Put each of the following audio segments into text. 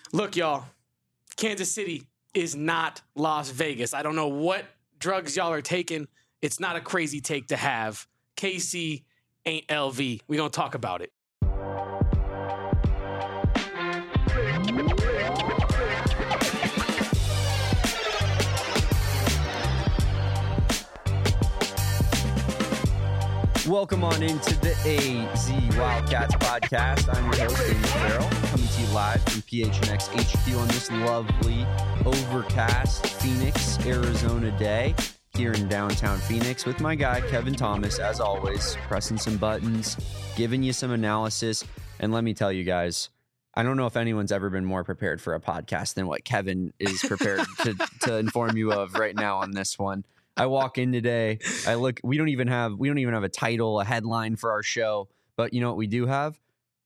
Look, y'all, Kansas City is not Las Vegas. I don't know what drugs y'all are taking. It's not a crazy take to have. KC ain't LV. We gonna talk about it. Welcome on into the AZ Wildcats podcast. I'm your host, Damon Farrell, coming to you live from PHNX HQ on this lovely, overcast Phoenix, Arizona day here in downtown Phoenix with my guy, Kevin Thomas, as always, pressing some buttons, giving you some analysis. And let me tell you guys, I don't know if anyone's ever been more prepared for a podcast than what Kevin is prepared to inform you of right now on this one. I walk in today, I look, we don't even have a title, a headline for our show, but you know what we do have?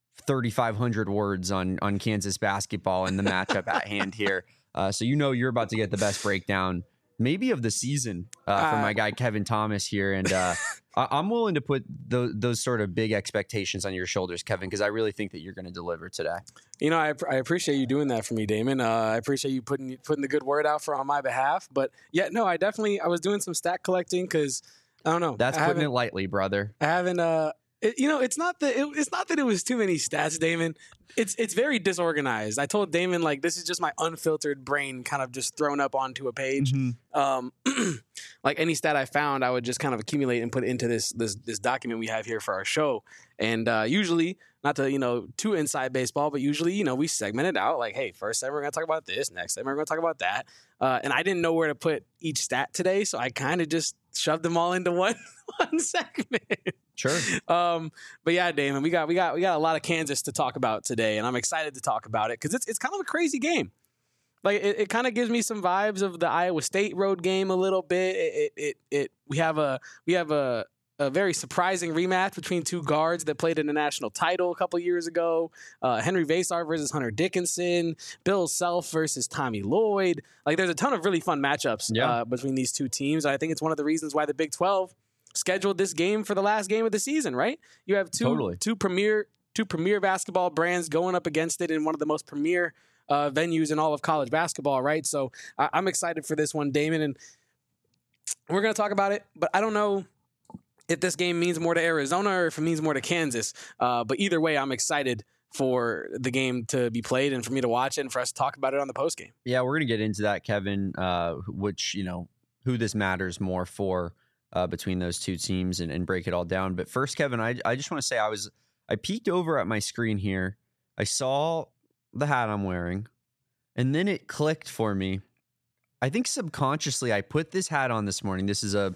3,500 words on Kansas basketball and the matchup at hand here. So you know you're about to get the best breakdown maybe of the season from my guy Kevin Thomas here. And I'm willing to put those sort of big expectations on your shoulders, Kevin, because I really think that you're going to deliver today. You know, I appreciate you doing that for me, Damon. I appreciate you putting the good word out on my behalf. But yeah, no, I was doing some stat collecting because I don't know. That's putting it lightly, brother. I haven't. It's not that it was too many stats, Damon. It's very disorganized. I told Damon, like, this is just my unfiltered brain kind of just thrown up onto a page. Mm-hmm. Like any stat I found, I would just kind of accumulate and put into this document we have here for our show. And usually, not to, too inside baseball, but usually, we segment it out like, hey, first segment we're going to talk about this, next segment we're going to talk about that. And I didn't know where to put each stat today, so I kind of just shoved them all into one segment. Sure. But yeah, Damon, we got a lot of Kansas to talk about today, and I'm excited to talk about it because it's kind of a crazy game. Like it kind of gives me some vibes of the Iowa State road game a little bit. We have a very surprising rematch between two guards that played in the national title a couple years ago. Henry Vasar versus Hunter Dickinson, Bill Self versus Tommy Lloyd. Like there's a ton of really fun matchups between these two teams. I think it's one of the reasons why the Big 12 scheduled this game for the last game of the season, right? You have two premier basketball brands going up against it in one of the most premier venues in all of college basketball, right? So I'm excited for this one, Damon, and we're going to talk about it, but I don't know if this game means more to Arizona or if it means more to Kansas. But either way, I'm excited for the game to be played and for me to watch it and for us to talk about it on the postgame. Yeah, we're going to get into that, Kevin, which, who this matters more for between those two teams and break it all down. But first, Kevin, I just want to say I peeked over at my screen here. I saw the hat I'm wearing, and then it clicked for me. I think subconsciously I put this hat on this morning. This is a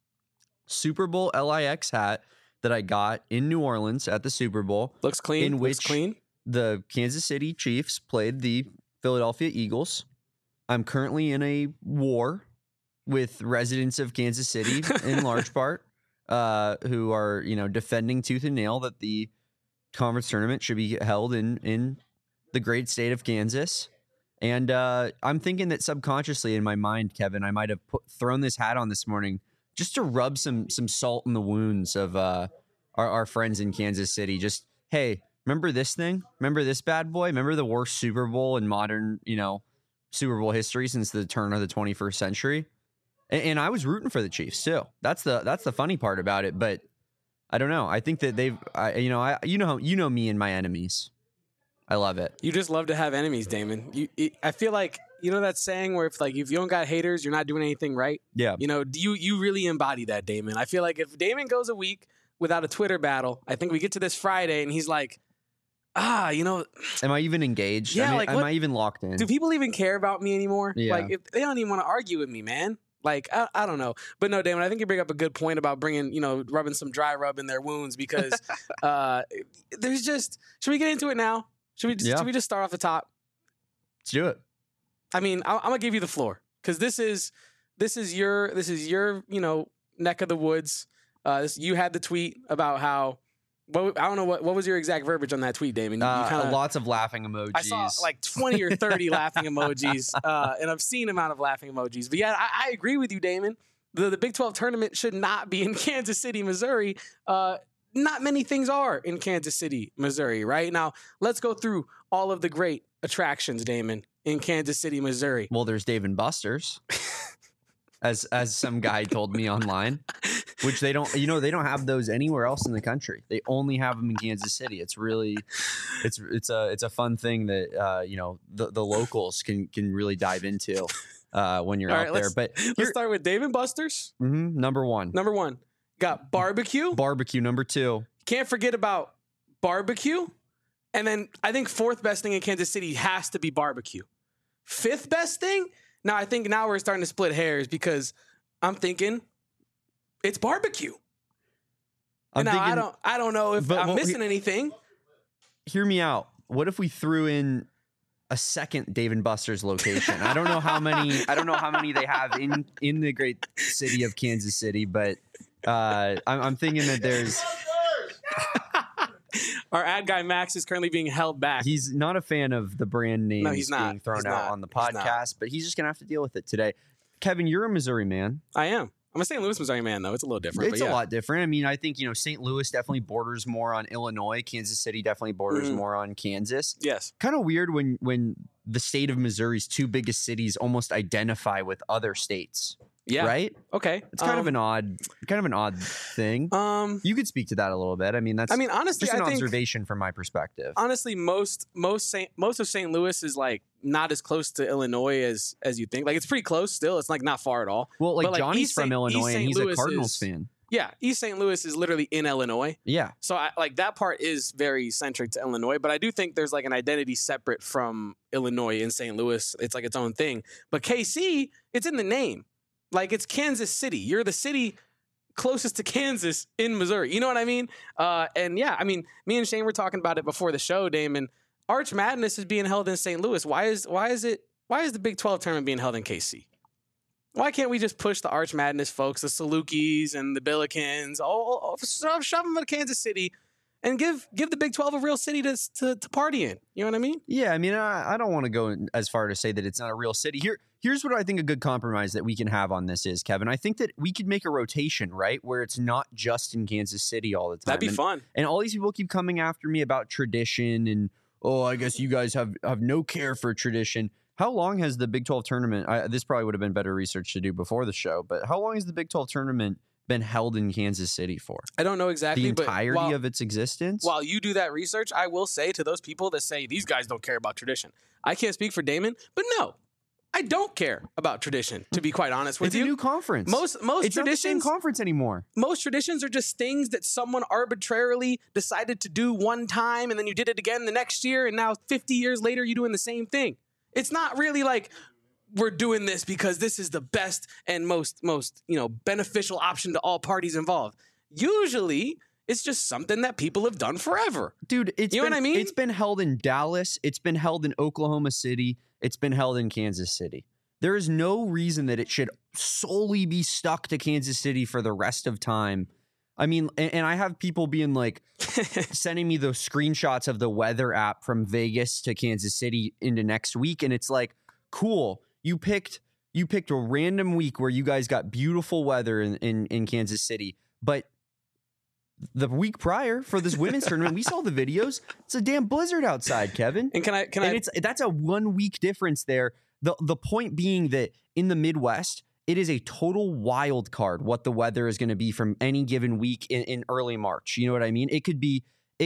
Super Bowl LIX hat that I got in New Orleans at the Super Bowl. Looks clean. In which the Kansas City Chiefs played the Philadelphia Eagles. I'm currently in a war with residents of Kansas City in large part, who are, defending tooth and nail that the conference tournament should be held in the great state of Kansas. And I'm thinking that subconsciously in my mind, Kevin, I might have thrown this hat on this morning just to rub some salt in the wounds of our friends in Kansas City. Just, hey, remember this thing? Remember this bad boy? Remember the worst Super Bowl in modern, Super Bowl history since the turn of the 21st century? And I was rooting for the Chiefs too. That's the funny part about it. But I don't know. I think that you know me and my enemies. I love it. You just love to have enemies, Damon. I feel like, that saying where if you don't got haters, you're not doing anything right. Yeah. You really embody that, Damon. I feel like if Damon goes a week without a Twitter battle, I think we get to this Friday and he's like, am I even engaged? Yeah, am I even locked in? Do people even care about me anymore? Yeah. If they don't even want to argue with me, man. I don't know. But no, Damon, I think you bring up a good point about bringing, rubbing some dry rub in their wounds because there's just, should we get into it now? Should we just start off the top? Let's do it. I mean, I'm gonna give you the floor because this is your neck of the woods. You had the tweet about how. I don't know what was your exact verbiage on that tweet, Damon. Lots of laughing emojis. I saw like 20 or 30 laughing emojis, an obscene amount of laughing emojis. But yeah, I agree with you, Damon. The Big 12 tournament should not be in Kansas City, Missouri. not many things are in Kansas City, Missouri, right? Now, let's go through all of the great attractions, Damon, in Kansas City, Missouri. Well, there's Dave and Buster's, as some guy told me online, which they don't have those anywhere else in the country. They only have them in Kansas City. It's really, it's a fun thing that the locals can really dive into when you're out there. But let's start with Dave and Buster's. Number one. Got barbecue. Barbecue, number 2. Can't forget about barbecue. And then I think 4th best thing in Kansas City has to be barbecue. 5th best thing? Now I think now we're starting to split hairs because I'm thinking it's barbecue. I don't know if I'm missing anything. Hear me out. What if we threw in a second Dave and Buster's location? I don't know how many they have in the great city of Kansas City, but I'm thinking that there's our ad guy Max is currently being held back. He's not a fan of the brand names being thrown out on the podcast, but he's just gonna have to deal with it today. Kevin, you're a Missouri man. I am. I'm a St. Louis, Missouri man, though. It's a little different. It's a lot different. I mean, I think, St. Louis definitely borders more on Illinois. Kansas City definitely borders more on Kansas. Yes. Kind of weird when the state of Missouri's 2 biggest cities almost identify with other states. Yeah. Right? Okay. It's kind of an odd thing. You could speak to that a little bit. I mean, honestly, just an observation from my perspective. Honestly, most of St. Louis is like not as close to Illinois as you think. Like it's pretty close still. It's like not far at all. Well, like Johnny's from Illinois and he's a Cardinals fan. Yeah, East St. Louis is literally in Illinois. Yeah. So that part is very centric to Illinois, but I do think there's like an identity separate from Illinois in St. Louis. It's like its own thing. But KC, it's in the name. Like it's Kansas City. You're the city closest to Kansas in Missouri. You know what I mean? And yeah, I mean, me and Shane were talking about it before the show, Damon. Arch Madness is being held in St. Louis. Why is the Big 12 tournament being held in KC? Why can't we just push the Arch Madness folks, the Salukis and the Billikens, shove them to Kansas City and give the Big 12 a real city to party in? You know what I mean? Yeah, I mean, I don't want to go as far to say that it's not a real city. Here's what I think a good compromise that we can have on this is, Kevin. I think that we could make a rotation, right, where it's not just in Kansas City all the time. That'd be fun. And all these people keep coming after me about tradition and, I guess you guys have no care for tradition. How long has the Big 12 tournament, this probably would have been better research to do before the show, but how long has the Big 12 tournament been held in Kansas City for? I don't know exactly. The entirety of its existence? While you do that research, I will say to those people that say these guys don't care about tradition, I can't speak for Damon, but no, I don't care about tradition, to be quite honest with you. It's a new conference. Most it's traditions, not the same conference anymore. Most traditions are just things that someone arbitrarily decided to do one time, and then you did it again the next year, and now 50 years later, you're doing the same thing. It's not really like we're doing this because this is the best and most beneficial option to all parties involved. Usually, it's just something that people have done forever. Dude, what I mean? It's been held in Dallas. It's been held in Oklahoma City. It's been held in Kansas City. There is no reason that it should solely be stuck to Kansas City for the rest of time. I mean, and I have people being like, sending me those screenshots of the weather app from Vegas to Kansas City into next week. And it's like, cool. You picked a random week where you guys got beautiful weather in Kansas City. But the week prior for this women's tournament, we saw the videos. It's a damn blizzard outside, Kevin. And that's a 1 week difference there. The point being that in the Midwest, it is a total wild card what the weather is going to be from any given week in early March. You know what I mean? It could be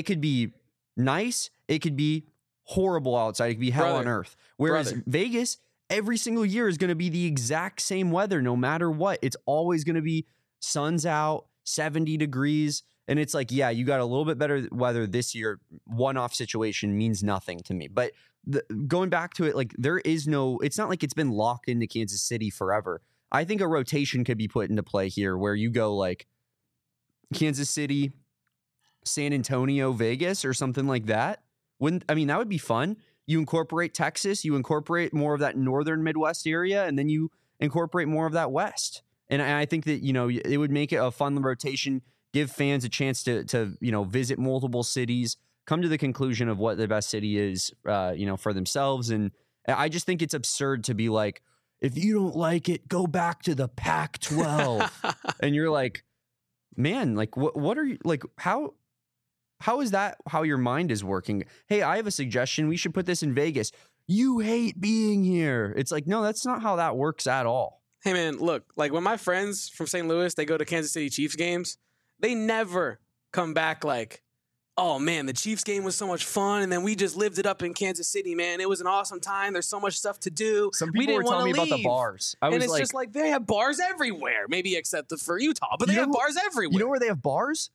nice. It could be horrible outside. It could be hell on earth. Whereas Vegas, every single year is going to be the exact same weather no matter what. It's always going to be sun's out, 70 degrees. And it's like, yeah, you got a little bit better weather this year. One-off situation means nothing to me. But going back to it, like it's not like it's been locked into Kansas City forever. I think a rotation could be put into play here where you go like Kansas City, San Antonio, Vegas, or something like that. That would be fun. You incorporate Texas, you incorporate more of that northern Midwest area, and then you incorporate more of that West. And I think that, it would make it a fun rotation, give fans a chance to visit multiple cities, come to the conclusion of what the best city is, for themselves. And I just think it's absurd to be like, if you don't like it, go back to the Pac-12. And you're like, man, like what are you like? How how is that how your mind is working? Hey, I have a suggestion. We should put this in Vegas. You hate being here. It's like, no, that's not how that works at all. Hey, man, look, like when my friends from St. Louis, they go to Kansas City Chiefs games, they never come back like, oh, man, the Chiefs game was so much fun, and then we just lived it up in Kansas City, man. It was an awesome time. There's so much stuff to do. Some people were telling me about the bars. And it's just like, they have bars everywhere, maybe except for Utah, but they have bars everywhere. You know where they have bars?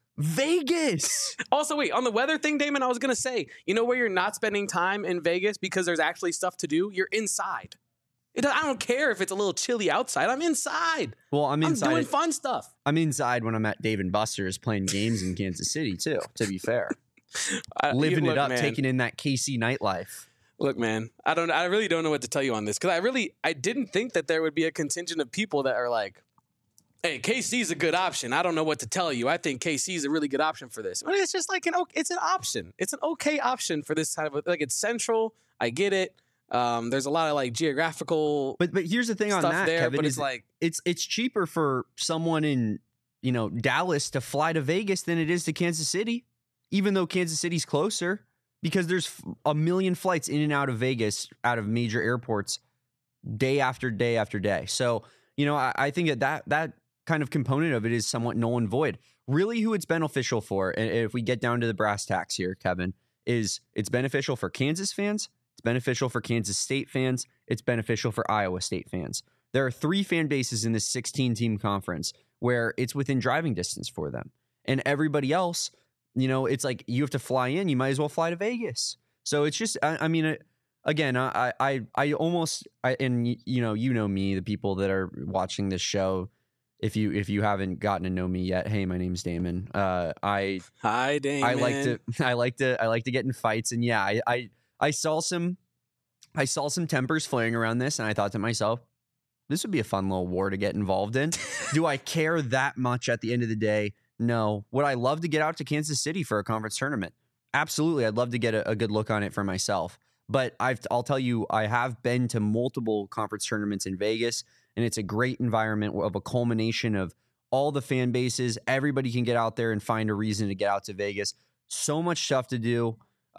Vegas. Also, wait, on the weather thing, Damon, I was going to say, you know where you're not spending time in Vegas because there's actually stuff to do? You're inside. I don't care if it's a little chilly outside. I'm inside. Well, I'm inside. I'm doing fun stuff. I'm inside when I'm at Dave & Buster's playing games in Kansas City, too, to be fair. Living it up, man. Taking in that KC nightlife. Look, man, I really don't know what to tell you on this because I didn't think that there would be a contingent of people that are like, hey, KC's a good option. I don't know what to tell you. I think KC's a really good option for this. But it's just like it's an option. It's an okay option for this kind of like it's central. I get it. There's a lot of like geographical, but here's the thing on that, there, Kevin. But it's like it's cheaper for someone in Dallas to fly to Vegas than it is to Kansas City, even though Kansas City's closer because there's a million flights in and out of Vegas out of major airports day after day after day. So I think that kind of component of it is somewhat null and void. Really, who it's beneficial for, and if we get down to the brass tacks here, Kevin, is it's beneficial for Kansas fans. It's beneficial for Kansas State fans. It's beneficial for Iowa State fans. There are 3 fan bases in this 16-team conference where it's within driving distance for them. And everybody else, it's like you have to fly in. You might as well fly to Vegas. So it's just, again, I almost, and you know me, the people that are watching this show, if you haven't gotten to know me yet, hey, my name's Damon. Hi, Damon. I like to get in fights, and yeah, I saw some tempers flaring around this, and I thought to myself, this would be a fun little war to get involved in. Do I care that much at the end of the day? No. Would I love to get out to Kansas City for a conference tournament? Absolutely. I'd love to get a good look on it for myself. But I'll tell you, I have been to multiple conference tournaments in Vegas, and it's a great environment of a culmination of all the fan bases. Everybody can get out there and find a reason to get out to Vegas. So much stuff to do.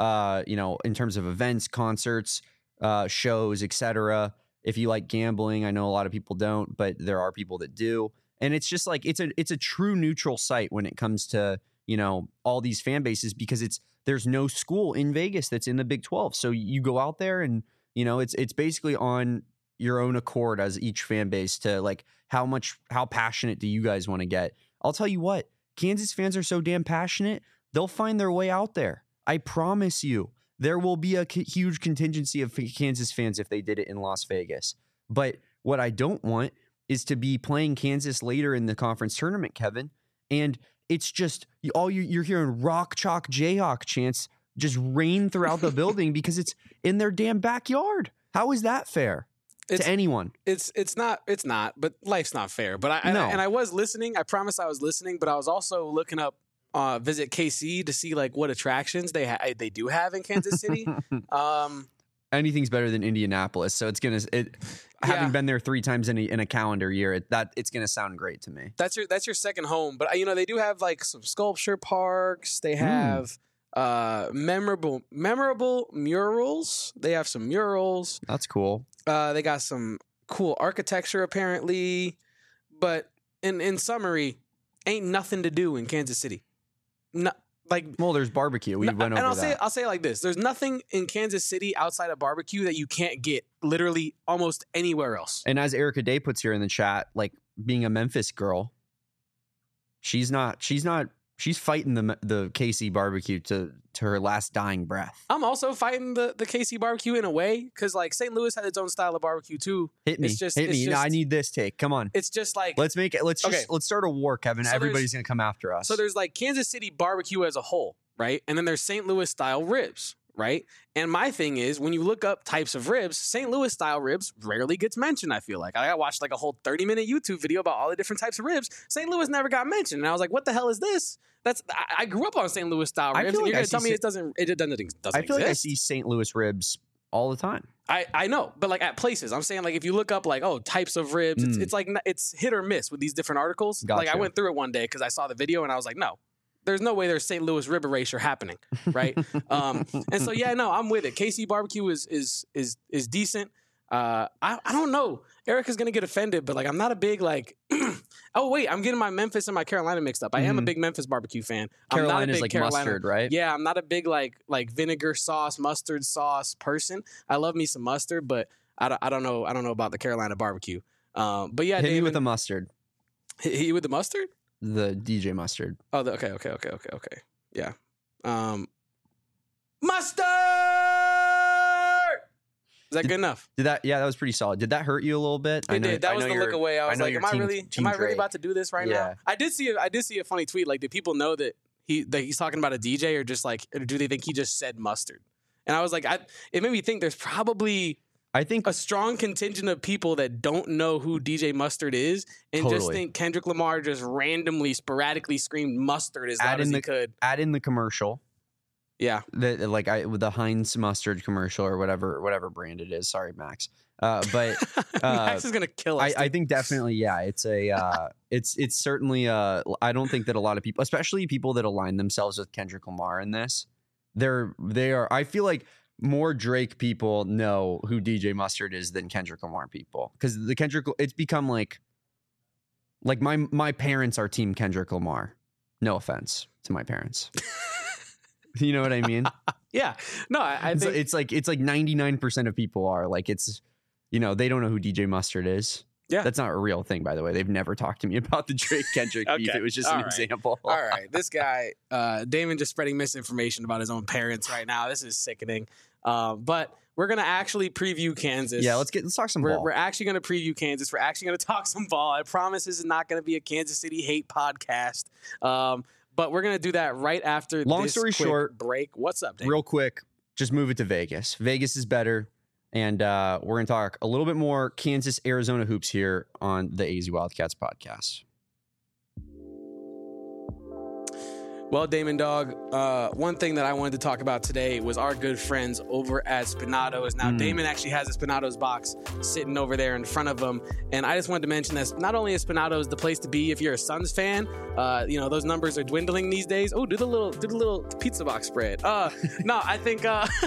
In terms of events, concerts, shows, etc. If you like gambling, I know a lot of people don't, but there are people that do. And it's just like it's a true neutral site when it comes to, all these fan bases because there's no school in Vegas that's in the Big 12. So you go out there and, it's basically on your own accord as each fan base to like how passionate do you guys want to get? I'll tell you what, Kansas fans are so damn passionate, they'll find their way out there. I promise you, there will be a huge contingency of Kansas fans if they did it in Las Vegas. But what I don't want is to be playing Kansas later in the conference tournament, Kevin. And it's just you're hearing rock, chalk, Jayhawk chants just rain throughout the building because it's in their damn backyard. How is that fair to anyone? It's not, but life's not fair. But I was listening. I promise I was listening, but I was also looking up Visit KC to see like what attractions they do have in Kansas City. Anything's better than Indianapolis, so having been there 3 times in a calendar year, it's gonna sound great to me. That's your second home, but they do have like some sculpture parks. They have memorable murals. They have some murals. That's cool. They got some cool architecture apparently, but in summary, ain't nothing to do in Kansas City. No, there's barbecue. We went over that. I'll say it like this: there's nothing in Kansas City outside of barbecue that you can't get literally almost anywhere else. And as Erica Day puts here in the chat, like being a Memphis girl, she's fighting the KC barbecue to her last dying breath. I'm also fighting the KC barbecue in a way because like St. Louis had its own style of barbecue too. Hit me. I need this take. Come on. It's just like let's start a war, Kevin. So everybody's gonna come after us. So there's like Kansas City barbecue as a whole, right? And then there's St. Louis style ribs, right? And my thing is when you look up types of ribs, St. Louis style ribs rarely gets mentioned. I feel like I watched like a whole 30-minute YouTube video about all the different types of ribs. St. Louis never got mentioned, and I was like, what the hell is this? I grew up on St. Louis style ribs, and you're going to tell me it doesn't exist? I feel like I see St. Louis ribs all the time. I know, but like at places, I'm saying like if you look up like types of ribs, it's like it's hit or miss with these different articles. Gotcha. Like I went through it one day because I saw the video and I was like, no, there's no way there's St. Louis rib erasure happening, right? And so yeah, no, I'm with it. KC barbecue is decent. I don't know. Erica's gonna get offended, but like I'm not a big like. Oh wait, I'm getting my Memphis and my Carolina mixed up. I am a big Memphis barbecue fan. Carolina is like mustard, right? Yeah, I'm not a big like vinegar sauce, mustard sauce person. I love me some mustard, but I don't know about the Carolina barbecue. But yeah, hit me Damon, with the mustard. Hit you with the mustard? The DJ mustard. Oh, okay. Yeah. Mustard! Is that good enough? Yeah, that was pretty solid. Did that hurt you a little bit? It did. That was the look away. I was like, am I really about to do this right now? I did see a funny tweet. Like, did people know that he's talking about a DJ, or just like, or do they think he just said mustard? And I was like, it made me think there's probably a strong contingent of people that don't know who DJ Mustard is and just think Kendrick Lamar just randomly, sporadically screamed mustard as loud as he could. Add in the commercial. Yeah. With the Heinz mustard commercial or whatever brand it is. Sorry, Max. But Max is gonna kill us. I think definitely, yeah. It's it's certainly I don't think that a lot of people, especially people that align themselves with Kendrick Lamar in this, they are. I feel like more Drake people know who DJ Mustard is than Kendrick Lamar people, because it's become like my parents are team Kendrick Lamar. No offense to my parents. You know what I mean? Yeah. No, I think it's like 99% of people are like, it's, they don't know who DJ Mustard is. Yeah. That's not a real thing, by the way. They've never talked to me about the Drake Kendrick beef. It was just an example. All right. This guy, Damon, just spreading misinformation about his own parents right now. This is sickening. But we're going to actually preview Kansas. Yeah, let's talk some ball. We're actually going to preview Kansas. We're actually going to talk some ball. I promise this is not going to be a Kansas City hate podcast. But we're going to do that right after Long this story quick short, break. What's up, Dave? Real quick, just move it to Vegas. Vegas is better. And we're going to talk a little bit more Kansas, Arizona hoops here on the AZ Wildcats podcast. Well, Damon Dog, one thing that I wanted to talk about today was our good friends over at Spinato's. Now, Damon actually has a Spinato's box sitting over there in front of him. And I just wanted to mention that not only is Spinato's the place to be if you're a Suns fan, those numbers are dwindling these days. Oh, do the little pizza box spread. No, I think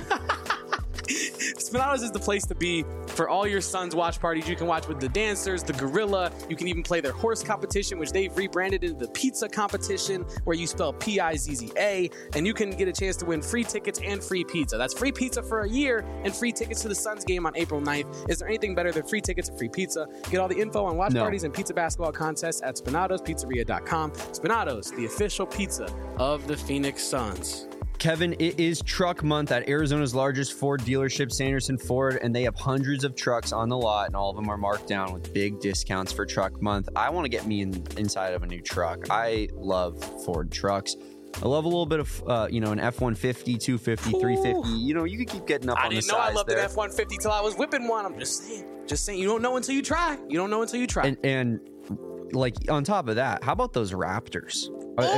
Spinato's is the place to be for all your Suns watch parties. You can watch with the dancers, the gorilla. You can even play their horse competition, which they've rebranded into the pizza competition, where you spell Pizza, and you can get a chance to win free tickets and free pizza. That's free pizza for a year and free tickets to the Suns game on April 9th. Is there anything better than free tickets and free pizza? Get all the info on watch parties and pizza basketball contests at SpinatosPizzeria.com. Spinato's, the official pizza of the Phoenix Suns. Kevin, it is truck month at Arizona's largest Ford dealership, Sanderson Ford, and they have hundreds of trucks on the lot, and all of them are marked down with big discounts for truck month. I want to get me inside of a new truck. I love Ford trucks. I love a little bit of, an F-150, 250, 350. You could keep getting up on the size. I didn't know I loved an F-150 till I was whipping one. I'm just saying. You don't know until you try. And like, on top of that, how about those Raptors?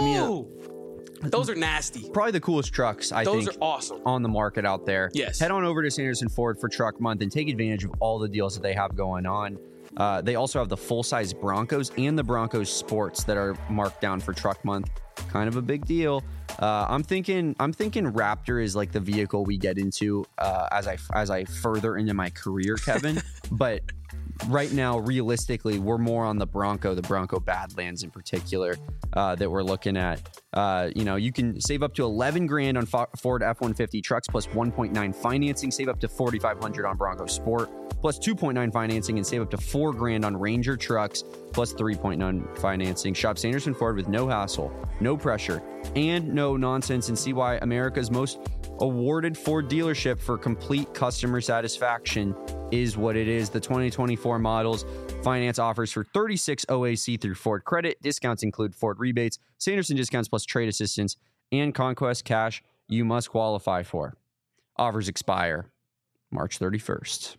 Those are nasty. Probably the coolest trucks, I think. Those are awesome. On the market out there. Yes. Head on over to Sanderson Ford for Truck Month and take advantage of all the deals that they have going on. They also have the full-size Broncos and the Broncos Sports that are marked down for Truck Month. Kind of a big deal. I'm thinking Raptor is like the vehicle we get into as I further into my career, Kevin. But right now, realistically, we're more on the Bronco Badlands in particular that we're looking at. You can save up to $11,000 on Ford F-150 trucks plus 1.9 financing. Save up to $4,500 on Bronco Sport plus 2.9 financing, and save up to $4,000 on Ranger trucks plus 3.9 financing. Shop Sanderson Ford with no hassle, no pressure, and no nonsense, and see why America's most awarded Ford dealership for complete customer satisfaction is what it is. The 2024 models finance offers for 36 OAC through Ford Credit. Discounts include Ford rebates, Sanderson discounts plus trade assistance, and Conquest cash you must qualify for. Offers expire March 31st.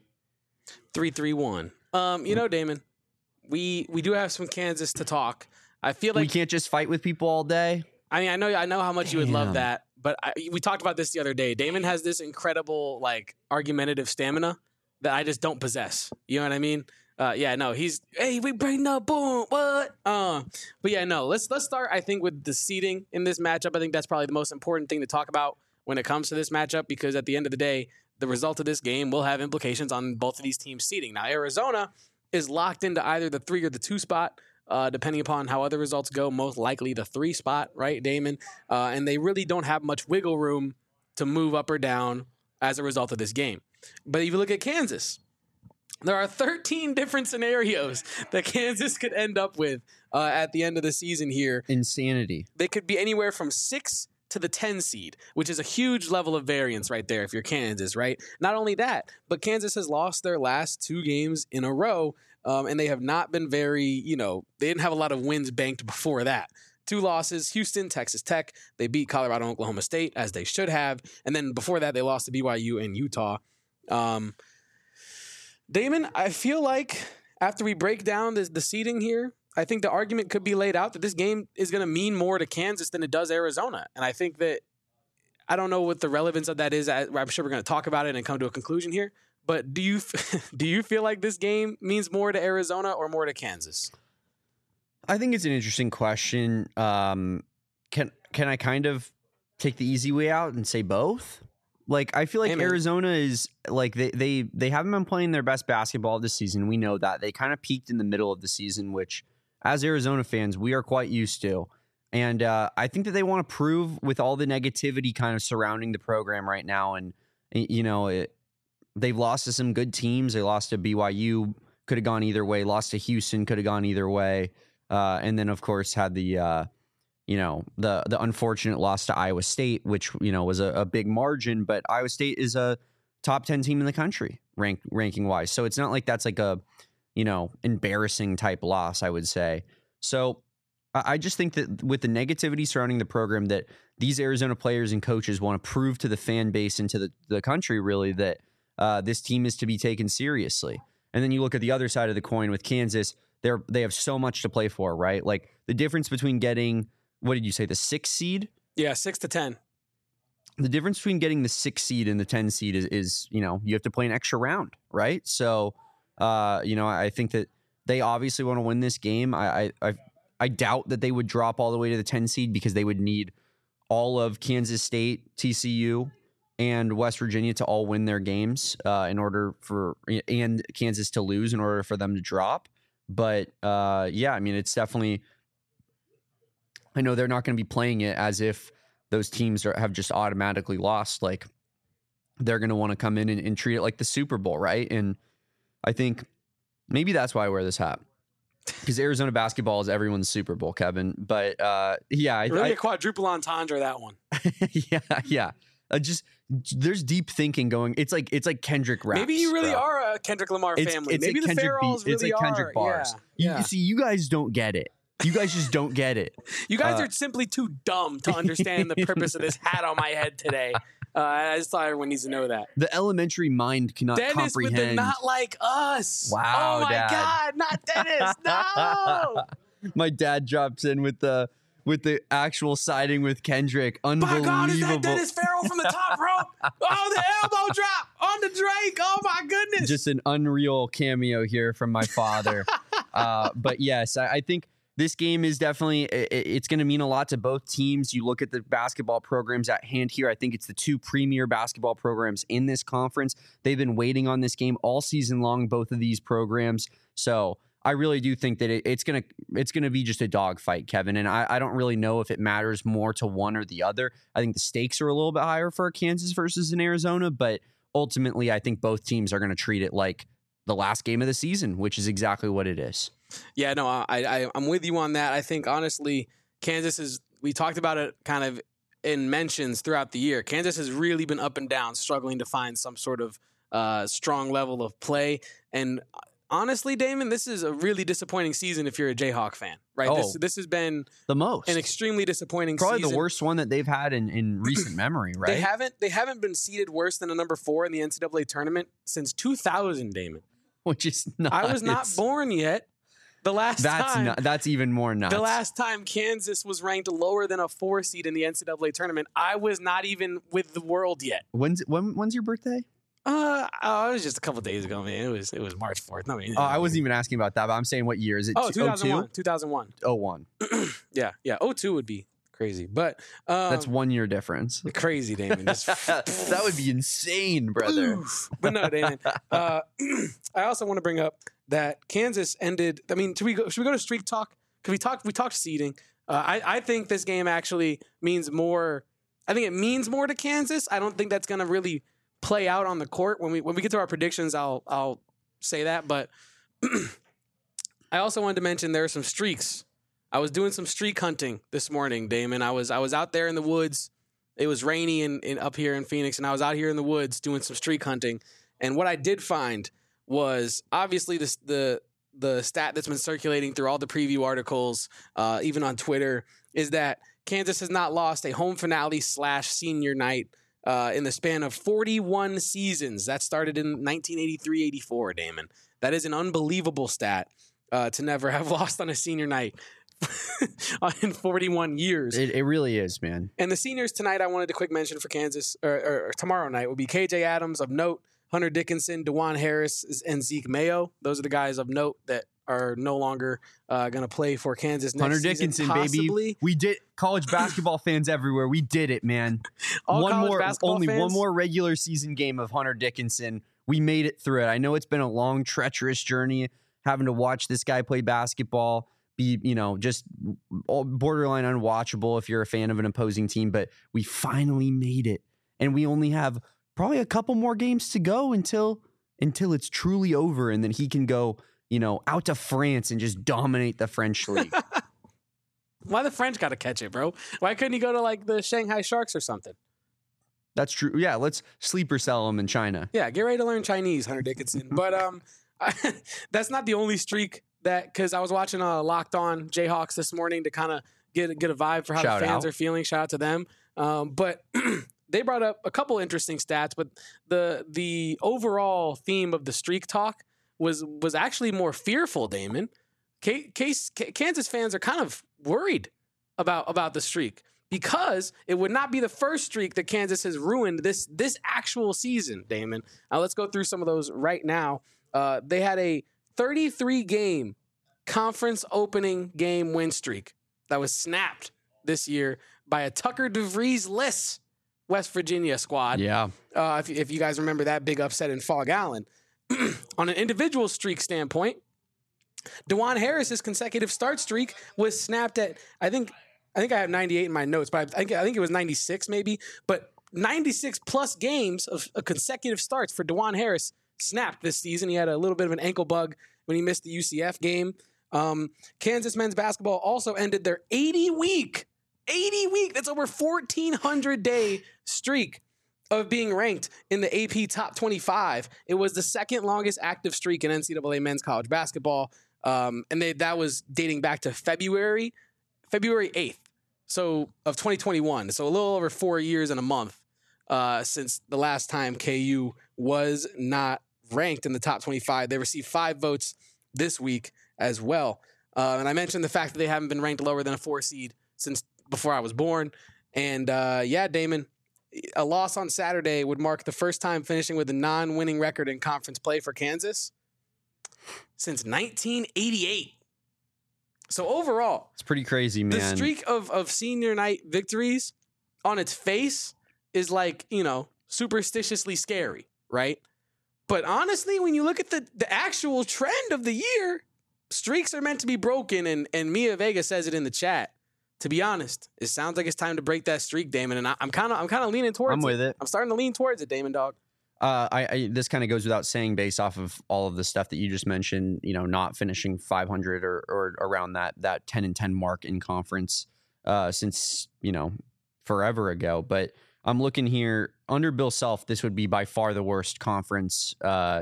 331. Damon, we do have some Kansas to talk. I feel like we can't just fight with people all day. I mean, I know how much you would love that, but we talked about this the other day. Damon has this incredible, argumentative stamina that I just don't possess. You know what I mean? Yeah, no, hey, we bring the boom, what? But yeah, no, let's start, I think, with the seeding in this matchup. I think that's probably the most important thing to talk about when it comes to this matchup, because at the end of the day, the result of this game will have implications on both of these teams' seeding. Now, Arizona is locked into either the 3 or the 2 spot, depending upon how other results go, most likely the 3 spot, right, Damon? And they really don't have much wiggle room to move up or down as a result of this game. But if you look at Kansas, there are 13 different scenarios that Kansas could end up with at the end of the season here. Insanity. They could be anywhere from 6 to the 10 seed, which is a huge level of variance right there if you're Kansas, right? Not only that, but Kansas has lost their last 2 games in a row, and they have not been very, they didn't have a lot of wins banked before that. 2 losses, Houston, Texas Tech. They beat Colorado and Oklahoma State, as they should have. And then before that, they lost to BYU and Utah. Damon, I feel like after we break down the seeding here, I think the argument could be laid out that this game is going to mean more to Kansas than it does Arizona. And I think that, I don't know what the relevance of that is. I'm sure we're going to talk about it and come to a conclusion here. But do you feel like this game means more to Arizona or more to Kansas? I think it's an interesting question. Can I kind of take the easy way out and say both? Like, I feel like Arizona is like they haven't been playing their best basketball this season. We know that. They kind of peaked in the middle of the season, which as Arizona fans, we are quite used to. And I think that they want to prove with all the negativity kind of surrounding the program right now. And, they've lost to some good teams. They lost to BYU, could have gone either way. Lost to Houston, could have gone either way. And then, of course, had the unfortunate loss to Iowa State, which, was a big margin, but Iowa State is a top 10 team in the country ranking wise. So it's not like that's like a, embarrassing type loss, I would say. So I just think that with the negativity surrounding the program, that these Arizona players and coaches want to prove to the fan base and to the country really that this team is to be taken seriously. And then you look at the other side of the coin with Kansas, they have so much to play for, right? Like the difference between getting, what did you say, the 6 seed? Yeah, 6 to 10. The difference between getting the 6 seed and the 10 seed is you have to play an extra round, right? So, I think that they obviously want to win this game. I doubt that they would drop all the way to the 10 seed because they would need all of Kansas State, TCU, and West Virginia to all win their games and Kansas to lose in order for them to drop. But it's definitely, I know they're not going to be playing it as if those teams have just automatically lost. Like they're going to want to come in and treat it like the Super Bowl, right? And I think maybe that's why I wear this hat, because Arizona basketball is everyone's Super Bowl, Kevin. But really a quadruple entendre, that one. yeah. There's deep thinking going. It's like Kendrick raps. Maybe you really are a Kendrick Lamar family. Maybe the Farrells really are. It's like Kendrick bars. Yeah. You see, you guys don't get it. You guys just don't get it. You guys are simply too dumb to understand the purpose of this hat on my head today. I just thought everyone needs to know that. The elementary mind cannot comprehend. Dennis with the not like us. Wow, oh my Dad. God, not Dennis. No. My dad drops in with the actual siding with Kendrick. Unbelievable. My God, is that Dennis Farrell from the top rope? Oh, the elbow drop on the Drake. Oh my goodness. Just an unreal cameo here from my father. But yes, I think this game is definitely, it's going to mean a lot to both teams. You look at the basketball programs at hand here. I think it's the 2 premier basketball programs in this conference. They've been waiting on this game all season long, both of these programs. So I really do think that it's gonna be just a dogfight, Kevin. And I don't really know if it matters more to one or the other. I think the stakes are a little bit higher for Kansas versus in Arizona, but ultimately I think both teams are going to treat it like the last game of the season, which is exactly what it is. Yeah, no, I'm with you on that. I think honestly, we talked about it kind of in mentions throughout the year. Kansas has really been up and down, struggling to find some sort of strong level of play. And honestly, Damon, this is a really disappointing season if you're a Jayhawk fan, right? Oh, this has been the most an extremely disappointing probably season. The worst one that they've had in recent memory, right? They haven't been seeded worse than a number 4 in the NCAA tournament since 2000, Damon. Which is nuts. I was not born yet. That's even more nuts. The last time Kansas was ranked lower than a 4 seed in the NCAA tournament, I was not even with the world yet. When's your birthday? It was just a couple days ago, man. It was March 4th. No, I mean, I wasn't even asking about that, but I'm saying what year is it? 2001. 2001. 01. Yeah. 02 would be crazy, but That's 1 year difference. crazy, Damon. That would be insane, brother. But no, Damon. I also want to bring up that Kansas ended. I mean, should we go to streak talk? Because we talked seeding. I think this game actually means more. I think it means more to Kansas. I don't think that's going to really play out on the court. When we get to our predictions, I'll say that. But I also wanted to mention there are some streaks. I was doing some streak hunting this morning, Damon. I was out there in the woods. It was rainy in up here in Phoenix, and I was out here in the woods doing some streak hunting. And what I did find was obviously the stat that's been circulating through all the preview articles, even on Twitter, is that Kansas has not lost a home finale / senior night in the span of 41 seasons. That started in 1983-84, Damon. That is an unbelievable stat to never have lost on a senior night in 41 years. It really is, man. And the seniors tonight, I wanted to quick mention for Kansas, or tomorrow night, will be KJ Adams of note, Hunter Dickinson, DeJuan Harris, and Zeke Mayo. Those are the guys of note that are no longer going to play for Kansas next Hunter season, Dickinson, possibly. baby. We did college basketball fans everywhere. We did it, man. Only one more regular season game of Hunter Dickinson. We made it through it. I know it's been a long, treacherous journey having to watch this guy play basketball. Be, just borderline unwatchable if you're a fan of an opposing team, but we finally made it. And we only have probably a couple more games to go until it's truly over, and then he can go, out to France and just dominate the French league. Why the French got to catch it, bro? Why couldn't he go to like the Shanghai Sharks or something? That's true. Yeah, let's sleeper sell him in China. Yeah, get ready to learn Chinese, Hunter Dickinson. But that's not the only streak because I was watching Locked On Jayhawks this morning to kind of get a vibe for how the fans are feeling. Shout out to them. But they brought up a couple interesting stats, but the overall theme of the streak talk was actually more fearful, Damon. Kansas fans are kind of worried about the streak because it would not be the first streak that Kansas has ruined this actual season, Damon. Let's go through some of those right now. They had a 33-game conference opening game win streak that was snapped this year by a Tucker DeVries-less West Virginia squad. Yeah. If you guys remember that big upset in Fog Allen. On an individual streak standpoint, DeJuan Harris's consecutive start streak was snapped at, I think I have 98 in my notes, but I think it was 96 maybe. But 96 plus games of consecutive starts for DeJuan Harris snapped this season. He had a little bit of an ankle bug when he missed the UCF game. Kansas men's basketball also ended their 80-week, that's over 1,400-day streak of being ranked in the AP Top 25. It was the second longest active streak in NCAA men's college basketball. And that was dating back to February 8th, of 2021. So a little over 4 years and a month since the last time KU was not ranked in the top 25. They received 5 votes this week as well. And I mentioned the fact that they haven't been ranked lower than a 4 seed since before I was born. And Damon, a loss on Saturday would mark the first time finishing with a non-winning record in conference play for Kansas since 1988. So overall, it's pretty crazy, man. The streak of senior night victories on its face is like, superstitiously scary, right? But honestly, when you look at the actual trend of the year, streaks are meant to be broken, and Mia Vega says it in the chat. To be honest, it sounds like it's time to break that streak, Damon, and I'm kind of leaning towards it. I'm with it. I'm starting to lean towards it, Damon, dog. This kind of goes without saying based off of all of the stuff that you just mentioned, not finishing 500 or around that 10-10 mark in conference since, forever ago. But I'm looking here under Bill Self, this would be by far the worst conference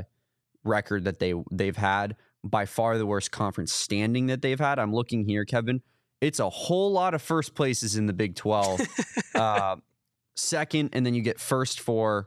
record that they've had, by far the worst conference standing that they've had. I'm looking here, Kevin. It's a whole lot of first places in the Big 12. Second, and then you get first for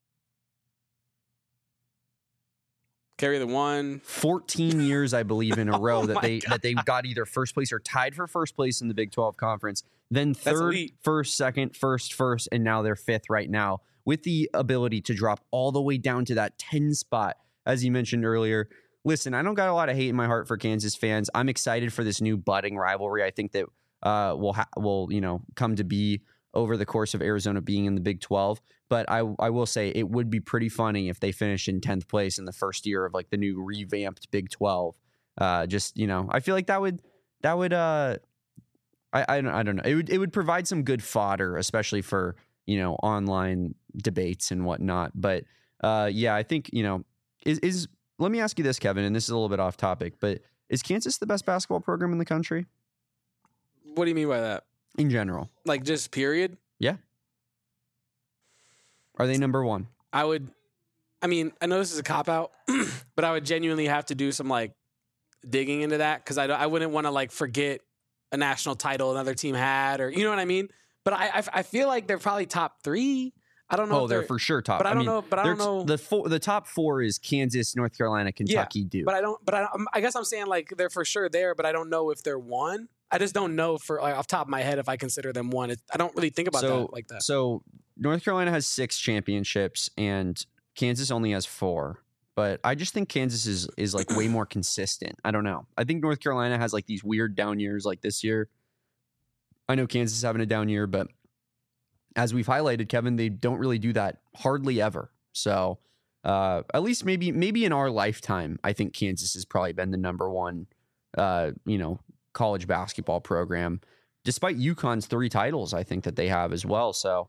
carry the one 14 years, I believe, in a row that they got either first place or tied for first place in the Big 12 conference. Then third, first, second, first, and now they're fifth right now with the ability to drop all the way down to that 10 spot, as you mentioned earlier. Listen, I don't got a lot of hate in my heart for Kansas fans. I'm excited for this new budding rivalry. I think that will come to be over the course of Arizona being in the Big 12. But I will say it would be pretty funny if they finish in 10th place in the first year of like the new revamped Big 12. I feel like that would I don't know. It would provide some good fodder, especially for, online debates and whatnot. But I think, let me ask you this, Kevin, and this is a little bit off topic, but is Kansas the best basketball program in the country? What do you mean by that? In general. Like just period? Yeah. Are they number one? I know this is a cop-out, but I would genuinely have to do some like digging into that because I wouldn't want to like forget a national title another team had, or you know what I mean? But I feel like they're probably top 3. I don't know. Oh, they're for sure top. But I don't know. The top 4 is Kansas, North Carolina, Kentucky, Duke. I guess I'm saying like they're for sure there, but I don't know if they're 1. I just don't know for like off the top of my head if I consider them 1. I don't really think about that like that. So North Carolina has 6 championships and Kansas only has 4. But I just think Kansas is like way more consistent. I don't know. I think North Carolina has like these weird down years like this year. I know Kansas is having a down year, but as we've highlighted, Kevin, they don't really do that hardly ever. So at least maybe in our lifetime, I think Kansas has probably been the number 1, college basketball program, despite UConn's 3 titles. I think that they have as well. So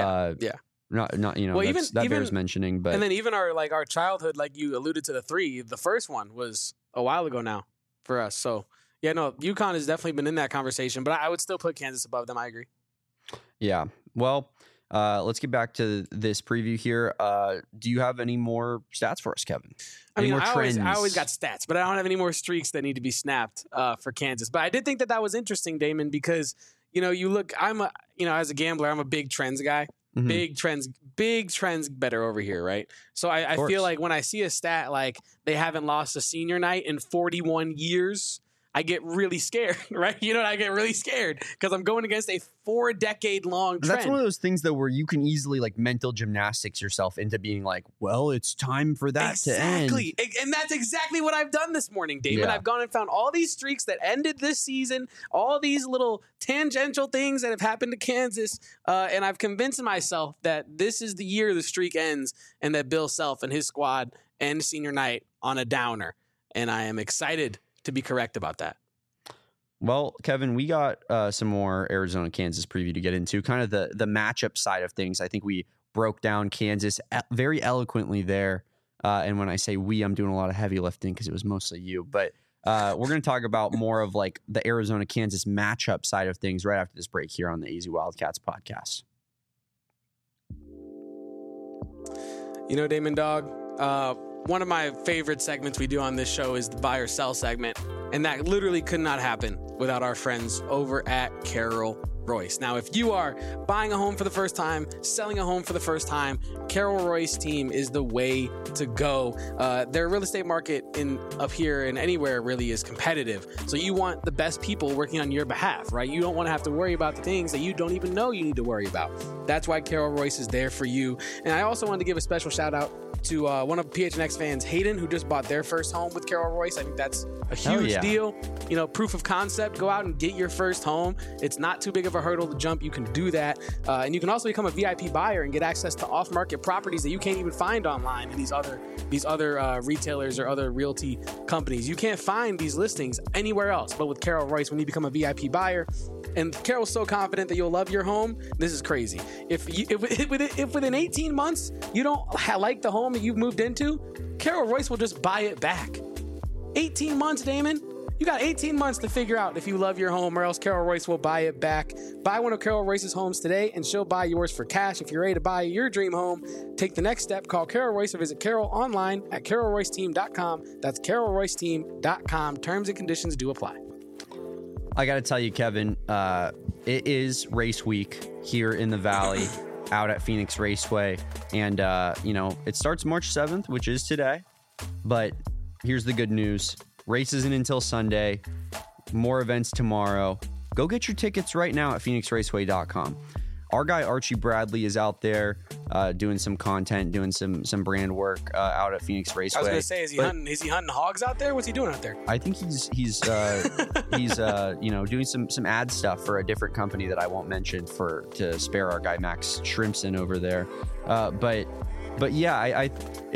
not that bears mentioning. But and then even our childhood, like you alluded to, the 3, the first one was a while ago now for us. So yeah, no, UConn has definitely been in that conversation, but I would still put Kansas above them. I agree. Yeah. Well, let's get back to this preview here. Do you have any more stats for us, Kevin? I always got stats, but I don't have any more streaks that need to be snapped for Kansas. But I did think that was interesting, Damon, because you look. As a gambler, I'm a big trends guy. Mm-hmm. Big trends better over here, right? So I feel like when I see a stat like they haven't lost a senior night in 41 years. I get really scared, right? I get really scared because I'm going against a 4-decade-long trend. That's one of those things, though, where you can easily like mental gymnastics yourself into being like, well, it's time for that to end. Exactly. And that's exactly what I've done this morning, Damon. Yeah. I've gone and found all these streaks that ended this season, all these little tangential things that have happened to Kansas, and I've convinced myself that this is the year the streak ends and that Bill Self and his squad end senior night on a downer. And I am excited to be correct about that. Well, Kevin, we got some more Arizona-Kansas preview to get into, kind of the matchup side of things. I think we broke down Kansas very eloquently there. And when I say we, I'm doing a lot of heavy lifting because it was mostly you. But we're going to talk about more of like the Arizona-Kansas matchup side of things right after this break here on the AZ Wildcats podcast. Damon Dog, one of my favorite segments we do on this show is the buy or sell segment, and that literally could not happen without our friends over at Carol Royce. Now, if you are buying a home for the first time, selling a home for the first time, Carol Royce team is the way to go. Their real estate market up here and anywhere really is competitive. So you want the best people working on your behalf, right? You don't want to have to worry about the things that you don't even know you need to worry about. That's why Carol Royce is there for you. And I also wanted to give a special shout out to one of PHNX fans, Hayden, who just bought their first home with Carol Royce. I think that's a huge deal. Proof of concept. Go out and get your first home. It's not too big of a hurdle to jump. You can do that. And you can also become a VIP buyer and get access to off-market properties that you can't even find online in these other retailers or other realty companies. You can't find these listings anywhere else but with Carol Royce when you become a VIP buyer. And Carol's so confident that you'll love your home. This is crazy. If within 18 months you don't like the home that you've moved into, Carol Royce will just buy it back. 18 months, Damon. You got 18 months to figure out if you love your home, or else Carol Royce will buy it back. Buy one of Carol Royce's homes today, and she'll buy yours for cash. If you're ready to buy your dream home, take the next step. Call Carol Royce or visit Carol online at carolroyceteam.com. That's carolroyceteam.com. Terms and conditions do apply. I got to tell you, Kevin, it is race week here in the Valley out at Phoenix Raceway. And, it starts March 7th, which is today. But here's the good news. Race isn't until Sunday. More events tomorrow. Go get your tickets right now at phoenixraceway.com. our guy Archie Bradley is out there doing some content, doing some brand work out at Phoenix Raceway. I was gonna say, is he hunting hogs out there? What's he doing out there? I think he's doing some ad stuff for a different company that I won't mention to spare our guy Max Shrimpson over there. But yeah,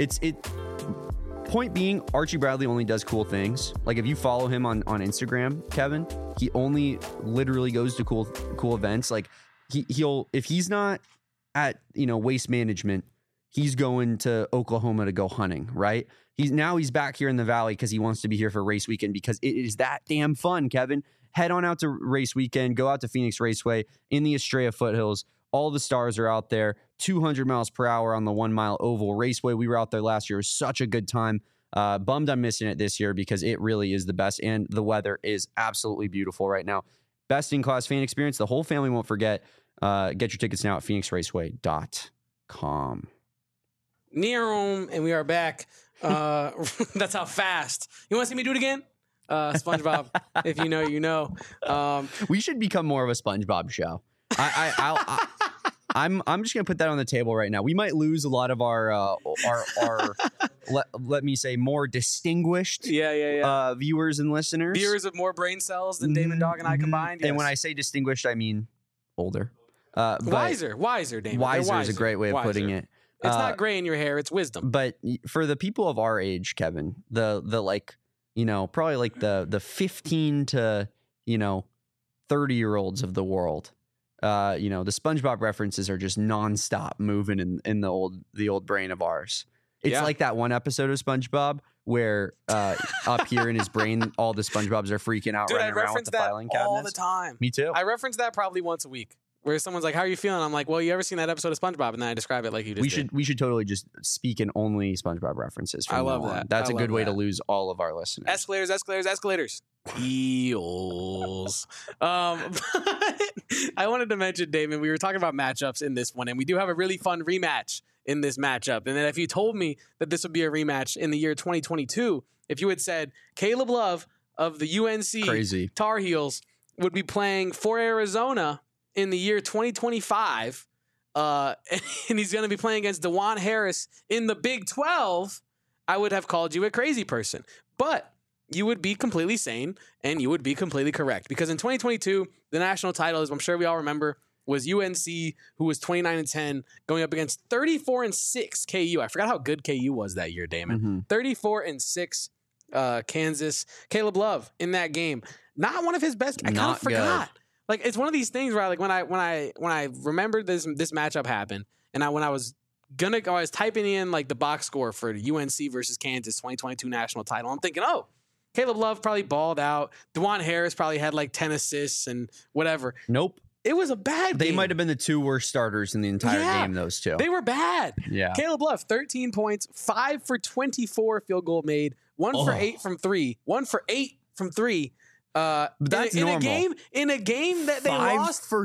point being, Archie Bradley only does cool things. Like if you follow him on Instagram, Kevin, he only literally goes to cool events. Like he'll if he's not at Waste Management, he's going to Oklahoma to go hunting, right? He's back here in the Valley because he wants to be here for race weekend because it is that damn fun, Kevin. Head on out to race weekend, go out to Phoenix Raceway in the Estrella Foothills. All the stars are out there, 200 miles per hour on the 1 mile oval raceway. We were out there last year. It was such a good time. Bummed I'm missing it this year because it really is the best, and the weather is absolutely beautiful right now. Best in class fan experience. The whole family won't forget. Get your tickets now at phoenixraceway.com. And we are back. That's how fast. You want to see me do it again? SpongeBob, if you know, you know. We should become more of a SpongeBob show. I'm just gonna put that on the table right now. We might lose a lot of our let me say more distinguished viewers and listeners. Viewers with more brain cells than Damon Dog and I combined. Yes. And when I say distinguished, I mean older. Wiser, Damon. Wiser is a great way of putting it. It's not gray in your hair; it's wisdom. But for the people of our age, Kevin, the probably like the 15 to 30-year-olds of the world. The SpongeBob references are just nonstop moving in the old brain of ours. It's like that one episode of SpongeBob where up here in his brain, all the SpongeBobs are freaking out, running around with the filing cabinets. All the time. Me too. I reference that probably once a week, where someone's like, "How are you feeling?" I'm like, "Well, you ever seen that episode of SpongeBob?" And then I describe it like you just did. We should totally just speak in only SpongeBob references. From I love now that. On. That's a good way to lose all of our listeners. Escalators. Eels. I wanted to mention, Damon, we were talking about matchups in this one, and we do have a really fun rematch in this matchup. And then if you told me that this would be a rematch in the year 2022, if you had said Caleb Love of the UNC Tar Heels would be playing for Arizona in the year 2025, and he's going to be playing against DeJuan Harris in the Big 12, I would have called you a crazy person. But you would be completely sane, and you would be completely correct. Because in 2022, the national title, as I'm sure we all remember, was UNC, who was 29-10, going up against 34-6 KU. I forgot how good KU was that year, Damon. 34-6 Kansas. Caleb Love in that game, not one of his best. I kind of forgot. Good. Like, it's one of these things where when I remembered this matchup happened, and when I was typing in like the box score for the UNC versus Kansas 2022 national title, I'm thinking, oh, Caleb Love probably balled out. DeJuan Harris probably had like 10 assists and whatever. Nope. It was a bad game. They might have been the two worst starters in the entire game, those two. They were bad. Yeah. Caleb Love, 13 points, 5 for 24 field goal made, 1 for 8 from 3, 1 for 8 from 3. But that's normal. In a game that they lost. 5 for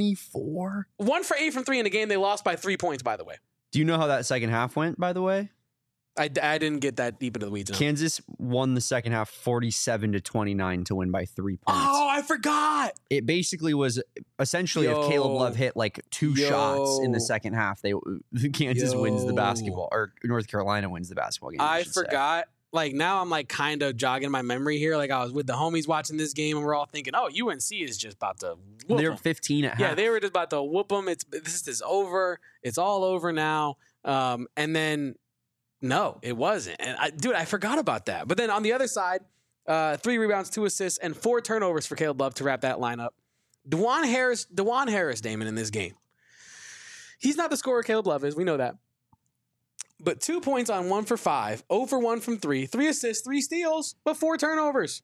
24? 1 for 8 from 3 in a game they lost by 3 points, by the way. Do you know how that second half went, by the way? I didn't get that deep into the weeds. No. Kansas won the second half 47-29 to win by 3 points. Oh, I forgot. It basically was essentially if Caleb Love hit like 2 shots in the second half, Kansas wins the basketball, or North Carolina wins the basketball game. I forgot. Like, now I'm like kind of jogging my memory here. Like, I was with the homies watching this game, and we're all thinking, oh, UNC is just about to whoop They're 15 at half. Yeah, they were just about to whoop them. This is over. It's all over now. And then, no, it wasn't. And I forgot about that. But then on the other side, 3 rebounds, 2 assists, and 4 turnovers for Caleb Love to wrap that lineup. DeJuan Harris, Damon, in this game. He's not the scorer Caleb Love is. We know that. But 2 points on 1 for 5, 0 for 1 from 3, 3 assists, 3 steals, but 4 turnovers.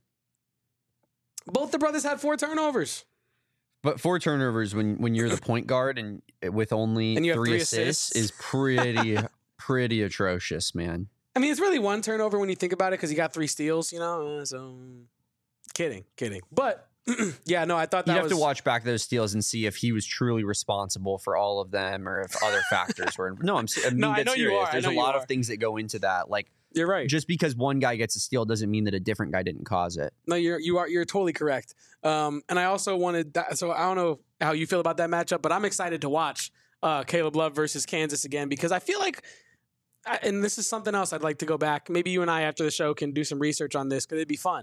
Both the brothers had 4 turnovers. But 4 turnovers when you're the point guard and with only 3 assists is pretty atrocious, man. I mean, it's really 1 turnover when you think about it because he got 3 steals, So kidding. But Yeah, no, I thought that You'd was... have to watch back those steals and see if he was truly responsible for all of them or if other factors were. No, I mean, No, I know you serious. are. There's a lot of things that go into that. Like, You're right. just because one guy gets a steal doesn't mean that a different guy didn't cause it. No, you're totally correct. And I also wanted that, so I don't know how you feel about that matchup, but I'm excited to watch Caleb Love versus Kansas again, because I feel like, and this is something else I'd like to go back. Maybe you and I after the show can do some research on this because it'd be fun.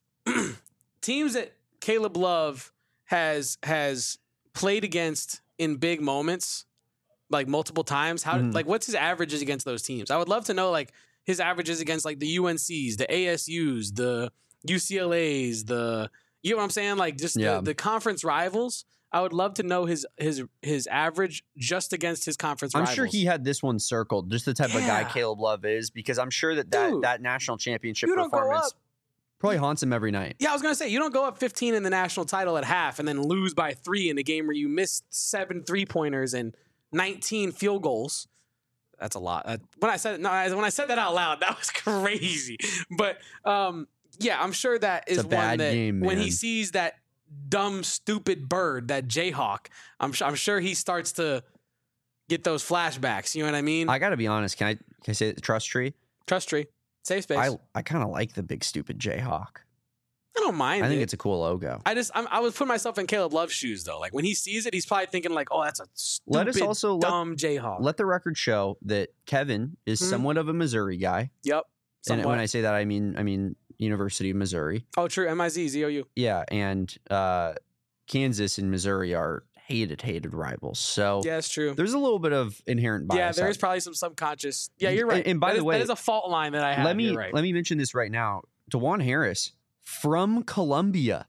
Teams that Caleb Love has played against in big moments, like multiple times. Like what's his averages against those teams? I would love to know like his averages against like the UNCs, the ASUs, the UCLAs, you know what I'm saying? Like just the conference rivals. I would love to know his average just against his conference rivals. I'm sure he had this one circled, just the type of guy Caleb Love is, because I'm sure that national championship performance probably haunts him every night. Yeah, I was going to say, you don't go up 15 in the national title at half and then lose by 3 in a game where you missed 7 3-pointers and 19 field goals. That's a lot. When I said that out loud, that was crazy. But yeah, I'm sure that is one that game, when he sees that dumb, stupid bird, that Jayhawk, I'm sure he starts to get those flashbacks. You know what I mean? I got to be honest. Can I say the trust tree? Trust tree. Safe space. I kind of like the big stupid Jayhawk. I don't mind. I think it's a cool logo. I was putting myself in Caleb Love's shoes though. Like when he sees it, he's probably thinking like, "Oh, that's a stupid, dumb Jayhawk." Let the record show that Kevin is somewhat of a Missouri guy. Yep. Somewhat. And when I say that, I mean University of Missouri. Oh, true. MIZ-ZOU. Yeah, and Kansas and Missouri are hated rivals. So yeah, it's true. There's a little bit of inherent bias. Yeah, there is probably some subconscious. Yeah, you're right. And by the way, that is a fault line that I have. Let me mention this right now. DeJuan Harris from Columbia,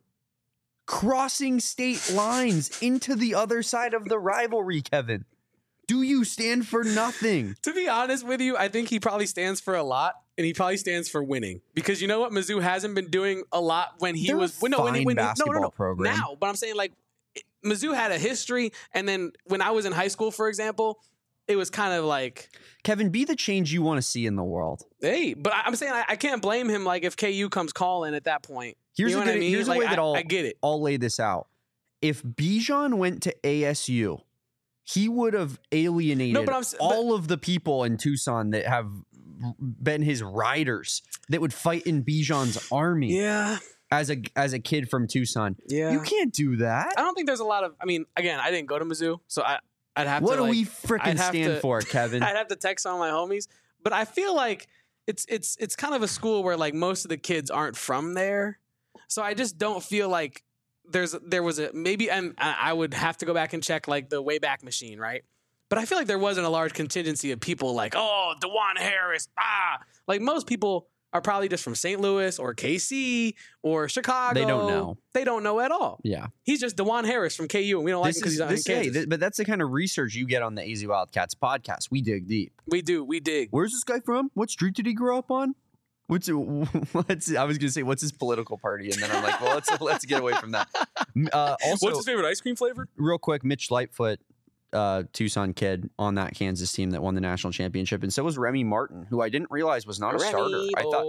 crossing state lines into the other side of the rivalry. Kevin, do you stand for nothing? To be honest with you, I think he probably stands for a lot. And he probably stands for winning, because you know what, Mizzou hasn't been doing a lot when he was basketball program now. But I'm saying like Mizzou had a history, and then when I was in high school, for example, it was kind of like, Kevin, be the change you want to see in the world. Hey, but I'm saying I can't blame him. Like if KU comes calling at that point, here's you know what I mean. Here's like, a way that I get it. I'll lay this out. If Bijan went to ASU, he would have alienated all of the people in Tucson that have been his riders that would fight in Bijan's army. Yeah. As a kid from Tucson. Yeah. You can't do that. I don't think there's a lot of, I mean, again, I didn't go to Mizzou, so I'd have what to. What do like, we freaking stand for, Kevin? I'd have to text some of my homies, but I feel like it's kind of a school where like most of the kids aren't from there. So I just don't feel like there was a maybe, and I would have to go back and check like the Wayback Machine, right? But I feel like there wasn't a large contingency of people like, oh, DeJuan Harris, like most people are probably just from St. Louis or KC or Chicago. They don't know. They don't know at all. Yeah. He's just DeJuan Harris from KU, and we don't like him because he's out in Kansas. But that's the kind of research you get on the AZ Wildcats podcast. We dig deep. We do. We dig. Where's this guy from? What street did he grow up on? I was gonna say, what's his political party? And then I'm like, well, let's get away from that. Also, what's his favorite ice cream flavor? Real quick, Mitch Lightfoot, Tucson kid on that Kansas team that won the national championship, and so was Remy Martin, who I didn't realize was not a starter.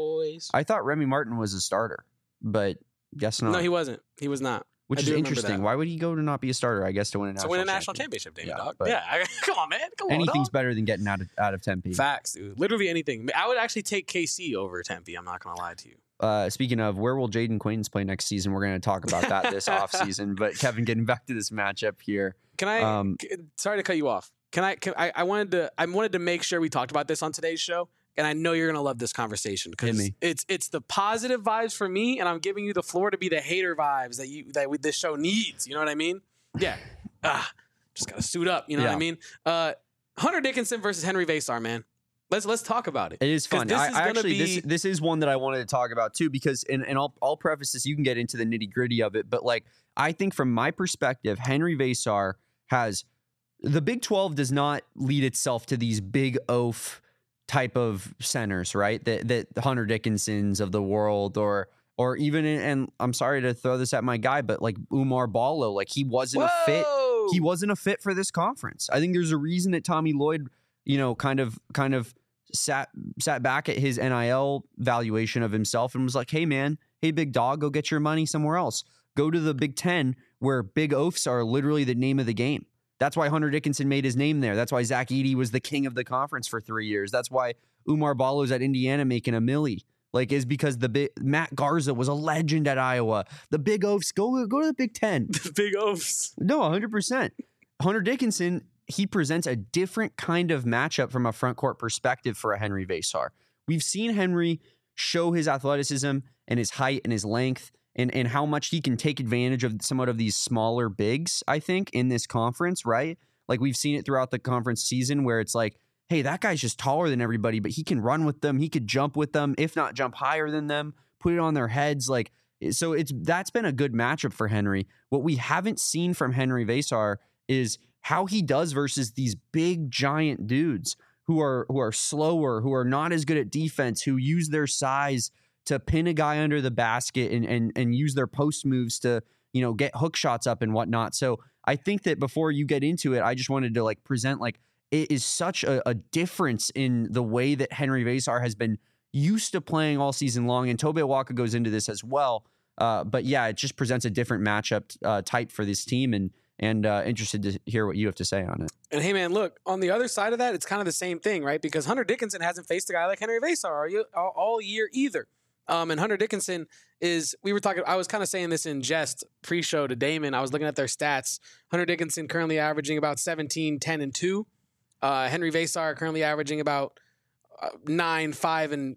I thought Remy Martin was a starter, but guess not. No, he wasn't. He was not. Which is interesting. Why would he go to not be a starter? I guess to win a national championship, David Dog. Yeah, come on, man. Come on, anything's better than getting out of Tempe. Facts, dude. Literally anything. I would actually take KC over Tempe. I'm not gonna lie to you. Speaking of, where will Jaden Quaintance play next season? We're going to talk about that this offseason. But Kevin, getting back to this matchup here. Can I? Sorry to cut you off. I wanted to make sure we talked about this on today's show, and I know you're going to love this conversation because it's the positive vibes for me, and I'm giving you the floor to be the hater vibes that this show needs. You know what I mean? Yeah. Just got to suit up. You know what I mean? Hunter Dickinson versus Henry Vesar, man. Let's talk about it. It is fun. This is one that I wanted to talk about too, because and I'll preface this. You can get into the nitty gritty of it, but like I think from my perspective, Henry Vesar has the Big 12 does not lead itself to these big oaf type of centers, right? That Hunter Dickinsons of the world or even and I'm sorry to throw this at my guy, but like Umar Ballo, like he wasn't a fit. He wasn't a fit for this conference. I think there's a reason that Tommy Lloyd, kind of sat back at his NIL valuation of himself and was like, hey man, hey big dog, go get your money somewhere else. go to the Big Ten, where big oafs are literally the name of the game. That's why Hunter Dickinson made his name there. That's why Zach Edey was the king of the conference for 3 years. That's why Umar Ballo's at Indiana making $1 million. Like, is because Matt Garza was a legend at Iowa. The big oafs, go to the Big Ten. The big oafs. No, 100%. Hunter Dickinson, he presents a different kind of matchup from a front court perspective for a Henry Vesar. We've seen Henry show his athleticism and his height and his length and how much he can take advantage of somewhat of these smaller bigs, I think, in this conference, right? Like, we've seen it throughout the conference season where it's like, hey, that guy's just taller than everybody, but he can run with them. He could jump with them, if not jump higher than them, put it on their heads. Like, so that's been a good matchup for Henry. What we haven't seen from Henry Vesar is how he does versus these big giant dudes who are slower, who are not as good at defense, who use their size to pin a guy under the basket and use their post moves to, you know, get hook shots up and whatnot. So I think that before you get into it, I just wanted to like present like it is such a difference in the way that Henry Vesar has been used to playing all season long. And Tobe Awaka goes into this as well. But yeah, it just presents a different matchup type for this team, and interested to hear what you have to say on it. And hey, man, look, on the other side of that, it's kind of the same thing, right? Because Hunter Dickinson hasn't faced a guy like Henry Vesar all year either. And Hunter Dickinson I was kind of saying this in jest pre-show to Damon. I was looking at their stats. Hunter Dickinson currently averaging about 17, 10, and 2. Henry Vesar currently averaging about 9, 5, and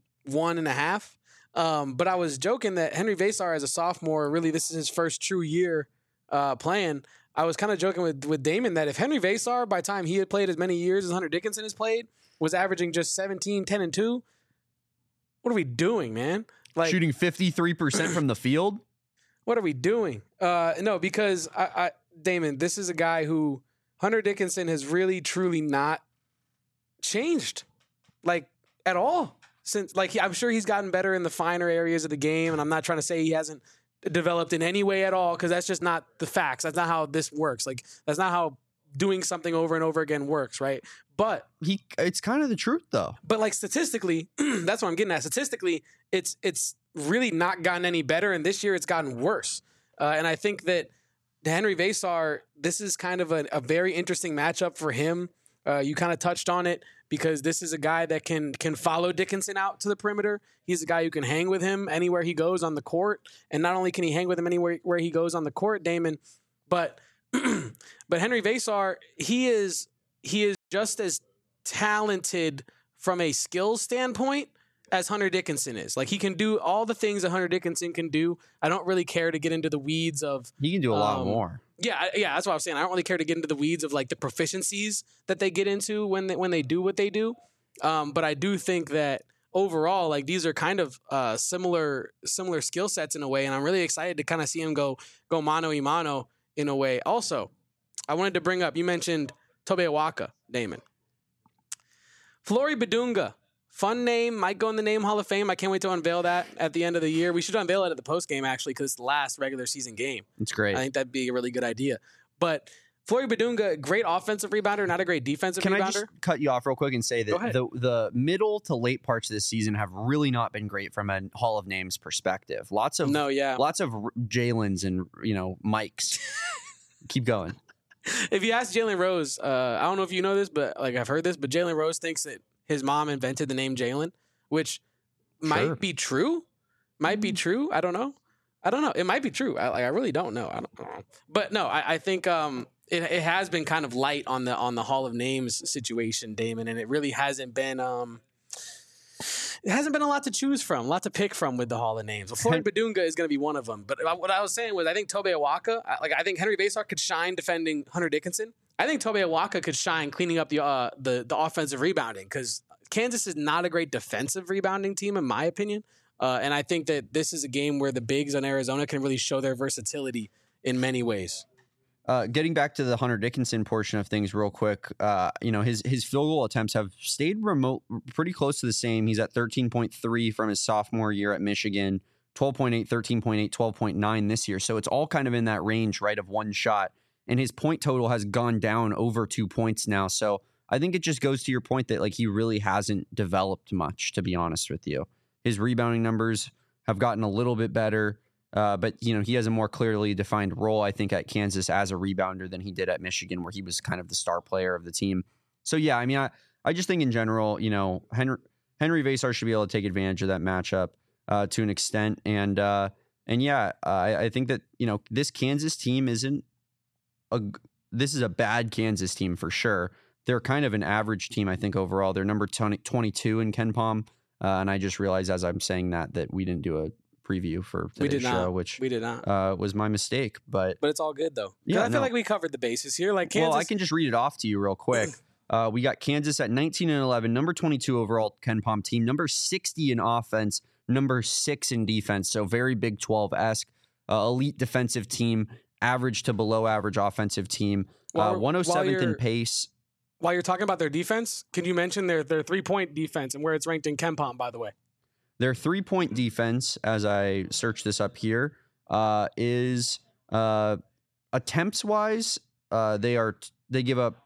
1.5. But I was joking that Henry Vesar as a sophomore, really this is his first true year playing. I was kind of joking with Damon that if Henry Vesar, by the time he had played as many years as Hunter Dickinson has played, was averaging just 17, 10, and 2, what are we doing, man? Like, shooting 53% from the field? What are we doing? No, because Damon, this is a guy who Hunter Dickinson has really, truly not changed, like, at all. Since, like, I'm sure he's gotten better in the finer areas of the game, and I'm not trying to say he hasn't developed in any way at all, because that's just not the facts. That's not how this works. Like, that's not how doing something over and over again works, right? But it's kind of the truth, though. But like statistically, that's what I'm getting at. Statistically, it's really not gotten any better, and this year it's gotten worse. And I think that Henry Vesar, this is kind of a very interesting matchup for him. You kind of touched on it, because this is a guy that can follow Dickinson out to the perimeter. He's a guy who can hang with him anywhere he goes on the court. And not only can he hang with him anywhere where he goes on the court, Damon, but Henry Vesar, he is just as talented from a skills standpoint as Hunter Dickinson is. Like, he can do all the things that Hunter Dickinson can do. I don't really care to get into the weeds of... He can do a lot more. Yeah, that's what I was saying. I don't really care to get into the weeds of like the proficiencies that they get into when they do what they do. But I do think that overall, like, these are kind of similar skill sets in a way, and I'm really excited to kind of see him go mano a mano in a way. Also, I wanted to bring up, you mentioned Tobe Awaka, Damon. Flory Badunga, fun name, might go in the Name Hall of Fame. I can't wait to unveil that at the end of the year. We should unveil it at the post game, actually, because it's the last regular season game. It's great. I think that'd be a really good idea. But Flory Badunga, great offensive rebounder, not a great defensive rebounder. Can I just cut you off real quick and say that the middle to late parts of this season have really not been great from a Hall of Names perspective. Lots of Jalen's and, Mike's. Keep going. If you ask Jalen Rose, I don't know if you know this, but like, I've heard this, but Jalen Rose thinks that his mom invented the name Jalen, which might be true. Might be true. I don't know. It might be true. I really don't know. I don't know. But no, I think it has been kind of light on the Hall of Names situation, Damon, and it really hasn't been it hasn't been a lot to choose from, a lot to pick from with the Hall of Names. Well, Flory Badunga is going to be one of them. But what I was saying was, I think Tobe Awaka, I think Henry Vesar could shine defending Hunter Dickinson. I think Tobe Awaka could shine cleaning up the offensive rebounding, because Kansas is not a great defensive rebounding team, in my opinion. And I think that this is a game where the bigs on Arizona can really show their versatility in many ways. Getting back to the Hunter Dickinson portion of things real quick, his field goal attempts have stayed pretty close to the same. He's at 13.3 from his sophomore year at Michigan, 12.8, 13.8, 12.9 this year. So it's all kind of in that range, right, of one shot. And his point total has gone down over 2 points now. So I think it just goes to your point that, like, he really hasn't developed much, to be honest with you. His rebounding numbers have gotten a little bit better. But, he has a more clearly defined role, I think, at Kansas as a rebounder than he did at Michigan, where he was kind of the star player of the team. So, yeah, I mean, I just think in general, Henry Vasar should be able to take advantage of that matchup to an extent. And yeah, I think that, this Kansas team this is a bad Kansas team for sure. They're kind of an average team, I think, overall. They're number 22 in KenPom. And I just realized as I'm saying that we didn't do a preview for today's show, which we did not. Was my mistake. But it's all good, though. Yeah, I feel like we covered the bases here. Like Kansas. Well, I can just read it off to you real quick. We got Kansas at 19-11, number 22 overall KenPom team, number 60 in offense, number 6 in defense. So very Big 12-esque, elite defensive team, average to below average offensive team, 107th in pace. While you're talking about their defense, can you mention their 3-point defense and where it's ranked in KenPom, by the way? Their 3-point defense, as I search this up here, is attempts-wise, they give up.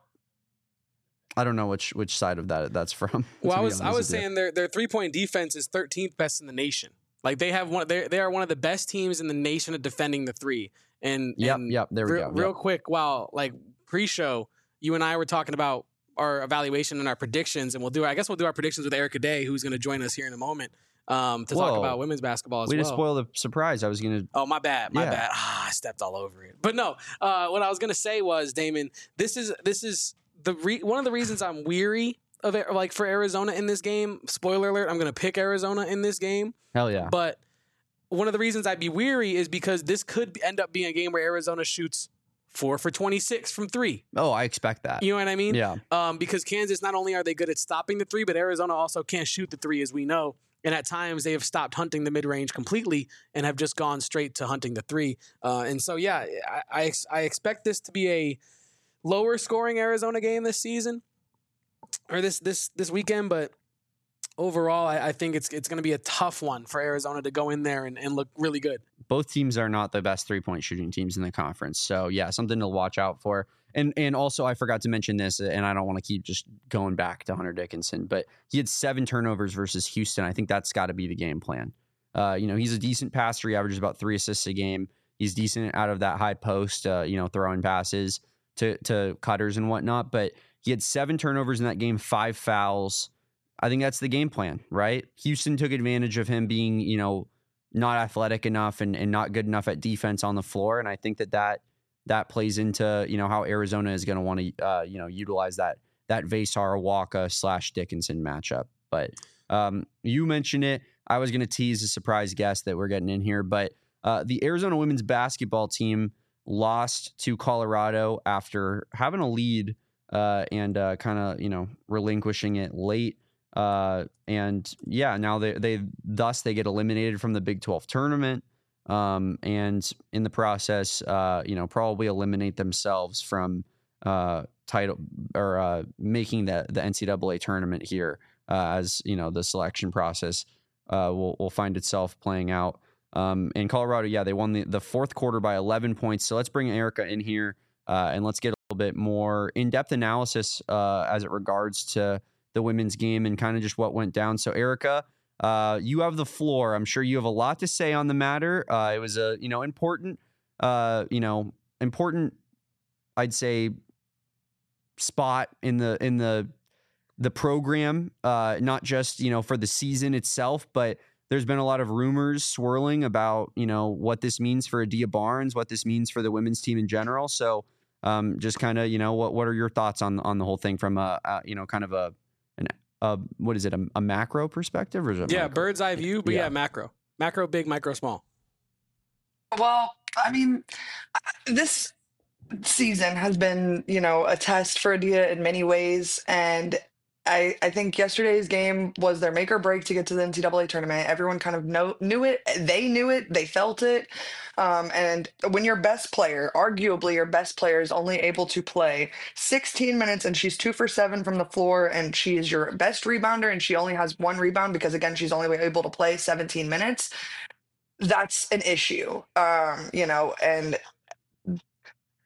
I don't know which side of that's from. Well, I was saying their 3-point defense is 13th best in the nation. Like they are one of the best teams in the nation at defending the three. And yep, there we go. Real quick, while like pre-show, you and I were talking about our evaluation and our predictions, and we'll do our predictions with Erica Day, who's going to join us here in a moment to talk about women's basketball as well. Way to spoil the surprise. I was going to. Oh, my bad. I stepped all over it. But no, what I was going to say was, Damon, this is one of the reasons I'm weary of it, like for Arizona in this game. Spoiler alert: I'm going to pick Arizona in this game. Hell yeah! But one of the reasons I'd be weary is because this could end up being a game where Arizona shoots 4 for 26 from 3. Oh, I expect that. You know what I mean? Yeah. Because Kansas, not only are they good at stopping the 3, but Arizona also can't shoot the 3, as we know. And at times they have stopped hunting the mid-range completely and have just gone straight to hunting the 3. And so, yeah, I expect this to be a lower scoring Arizona game this season or this weekend, but overall, I think it's going to be a tough one for Arizona to go in there and look really good. Both teams are not the best 3-point shooting teams in the conference. So, yeah, something to watch out for. And also, I forgot to mention this, and I don't want to keep just going back to Hunter Dickinson, but he had 7 turnovers versus Houston. I think that's got to be the game plan. He's a decent passer. He averages about 3 assists a game. He's decent out of that high post, throwing passes to cutters and whatnot. But he had 7 turnovers in that game, 5 fouls. I think that's the game plan, right? Houston took advantage of him being, not athletic enough and not good enough at defense on the floor. And I think that plays into, how Arizona is going to want to, utilize that Vasar Walker / Dickinson matchup. But you mentioned it. I was going to tease a surprise guest that we're getting in here, but the Arizona women's basketball team lost to Colorado after having a lead and kind of, relinquishing it late. And yeah, now they get eliminated from the Big 12 tournament. And in the process, probably eliminate themselves from title or making the NCAA tournament here, as the selection process will find itself playing out. In Colorado, yeah, they won the fourth quarter by 11 points. So let's bring Erica in here and let's get a little bit more in-depth analysis as it regards to the women's game and kind of just what went down. So Erica, you have the floor. I'm sure you have a lot to say on the matter. It was a, important, I'd say, spot in the program, not just, for the season itself, but there's been a lot of rumors swirling about, what this means for Adia Barnes, what this means for the women's team in general. So just kind of, what are your thoughts on the whole thing from kind of what is it, a macro perspective? Or is it micro? Bird's eye view, but macro big, micro small. Well, I mean, this season has been, a test for Adia in many ways. And I think yesterday's game was their make or break to get to the NCAA tournament. Everyone kind of knew it. They knew it. They felt it. And when your best player, arguably your best player, is only able to play 16 minutes and she's 2 for 7 from the floor and she is your best rebounder and she only has 1 rebound because, again, she's only able to play 17 minutes, that's an issue, and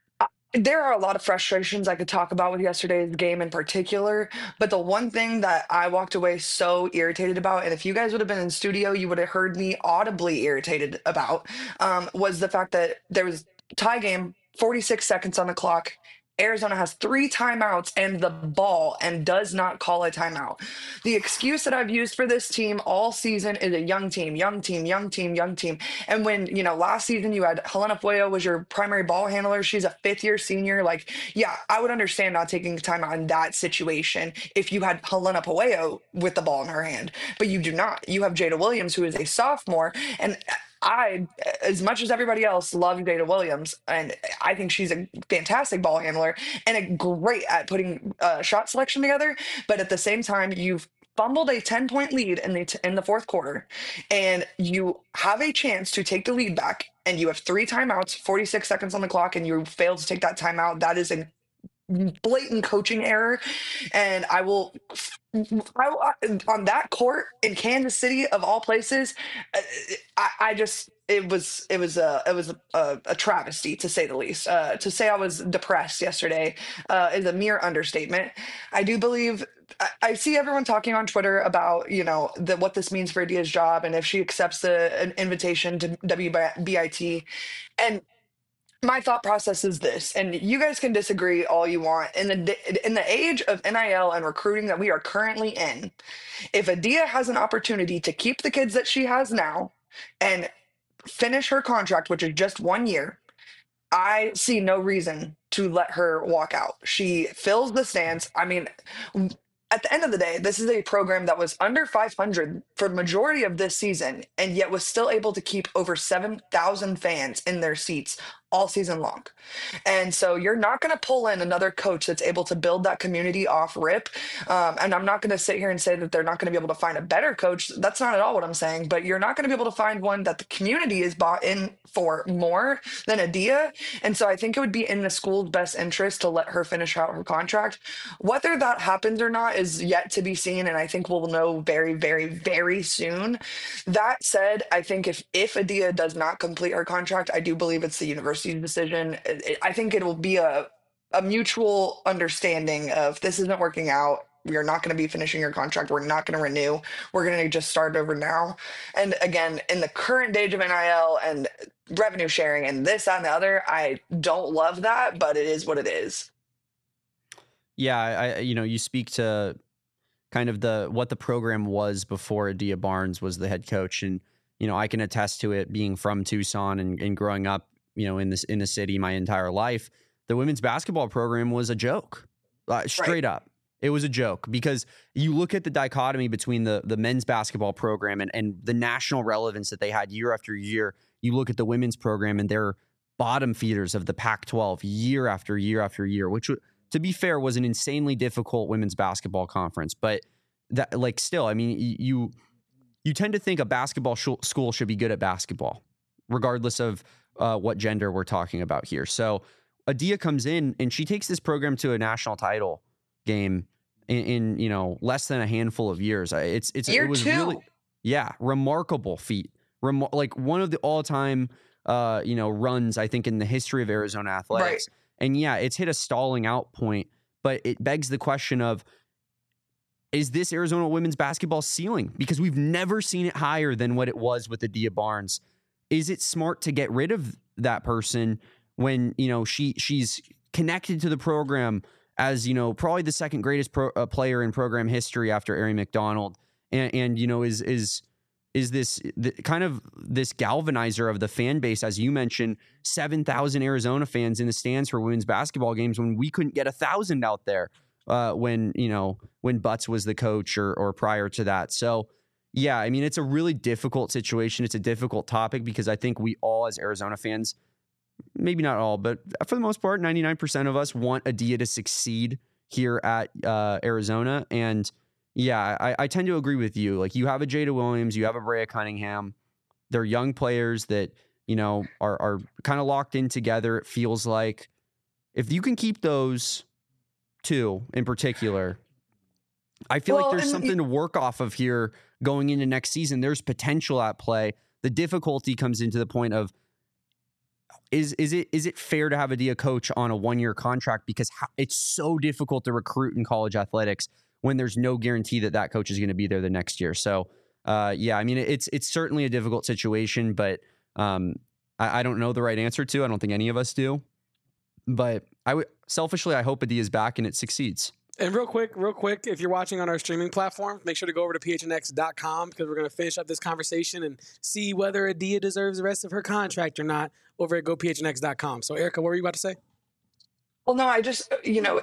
There are a lot of frustrations I could talk about with yesterday's game in particular, but the one thing that I walked away so irritated about, and if you guys would have been in studio, you would have heard me audibly irritated about, was the fact that there was tie game, 46 seconds on the clock. Arizona has 3 timeouts and the ball and does not call a timeout. The excuse that I've used for this team all season is a young team, young team, young team, young team. And when, last season you had Helena Fuego was your primary ball handler. She's a 5th-year senior. Like, yeah, I would understand not taking time out in that situation if you had Helena Fuego with the ball in her hand, but you do not. You have Jada Williams, who is a sophomore, and I, as much as everybody else, love Jada Williams, and I think she's a fantastic ball handler and a great at putting shot selection together. But at the same time, you've fumbled a 10-point lead in the fourth quarter, and you have a chance to take the lead back, and you have 3 timeouts, 46 seconds on the clock, and you fail to take that timeout. That is a blatant coaching error, and on that court in Kansas City of all places, I just it was a travesty, to say the least. To say I was depressed yesterday is a mere understatement. I do believe I see everyone talking on Twitter about what this means for Adia's job and if she accepts an invitation to WBIT, and my thought process is this, and you guys can disagree all you want. In the age of NIL and recruiting that we are currently in, if Adia has an opportunity to keep the kids that she has now and finish her contract, which is just 1 year, I see no reason to let her walk out. She fills the stands. I mean, at the end of the day, this is a program that was under 500 for the majority of this season, and yet was still able to keep over 7,000 fans in their seats all season long. And so you're not going to pull in another coach that's able to build that community off rip. And I'm not going to sit here and say that they're not going to be able to find a better coach. That's not at all what I'm saying. But you're not going to be able to find one that the community is bought in for more than Adia. And so I think it would be in the school's best interest to let her finish out her contract. Whether that happens or not is yet to be seen. And I think we'll know very, very, very soon. That said, I think if Adia does not complete her contract, I do believe it's the university's decision. I think it will be a mutual understanding of this isn't working out. We are not going to be finishing your contract. We're not going to renew. We're going to just start over now. And again, in the current age of NIL and revenue sharing and this, that, and the other, I don't love that, but it is what it is. Yeah, you speak to kind of what the program was before Adia Barnes was the head coach, and I can attest to it, being from Tucson and growing up in the city my entire life. The women's basketball program was a joke, straight up. It was a joke, because you look at the dichotomy between the men's basketball program and the national relevance that they had year after year. You look at the women's program and they're bottom feeders of the Pac-12 year after year after year, which, to be fair, was an insanely difficult women's basketball conference. But that, still, I mean, you tend to think a basketball school should be good at basketball, regardless of what gender we're talking about here. So Adia comes in and she takes this program to a national title game in less than a handful of years. It was really, remarkable feat. Like one of the all-time runs, I think, in the history of Arizona athletics. Right. And yeah, it's hit a stalling out point, but it begs the question of, is this Arizona women's basketball ceiling? Because we've never seen it higher than what it was with Adia Barnes. Is it smart to get rid of that person when, she's connected to the program as, probably the second greatest player in program history after Aari McDonald, and is this kind of this galvanizer of the fan base? As you mentioned, 7,000 Arizona fans in the stands for women's basketball games when we couldn't get 1,000 out there when Butts was the coach or prior to that. So yeah, I mean, it's a really difficult situation. It's a difficult topic because I think we all, as Arizona fans, maybe not all, but for the most part, 99% of us want Adia to succeed here at Arizona. And yeah, I tend to agree with you. Like, you have a Jada Williams, you have a Brea Cunningham. They're young players that, are kind of locked in together. It feels like if you can keep those two in particular, I feel like there's something to work off of here going into next season. There's potential at play. The difficulty comes into the point of, is it fair to have Adia coach on a 1-year contract, because it's so difficult to recruit in college athletics when there's no guarantee that coach is going to be there the next year. So yeah, I mean, it's certainly a difficult situation, but I don't know the right answer to. I don't think any of us do, but selfishly, I hope Adia is back and it succeeds. And real quick, if you're watching on our streaming platform, make sure to go over to phnx.com, because we're going to finish up this conversation and see whether Adia deserves the rest of her contract or not over at gophnx.com. So, Erica, what were you about to say? Well, no, I just,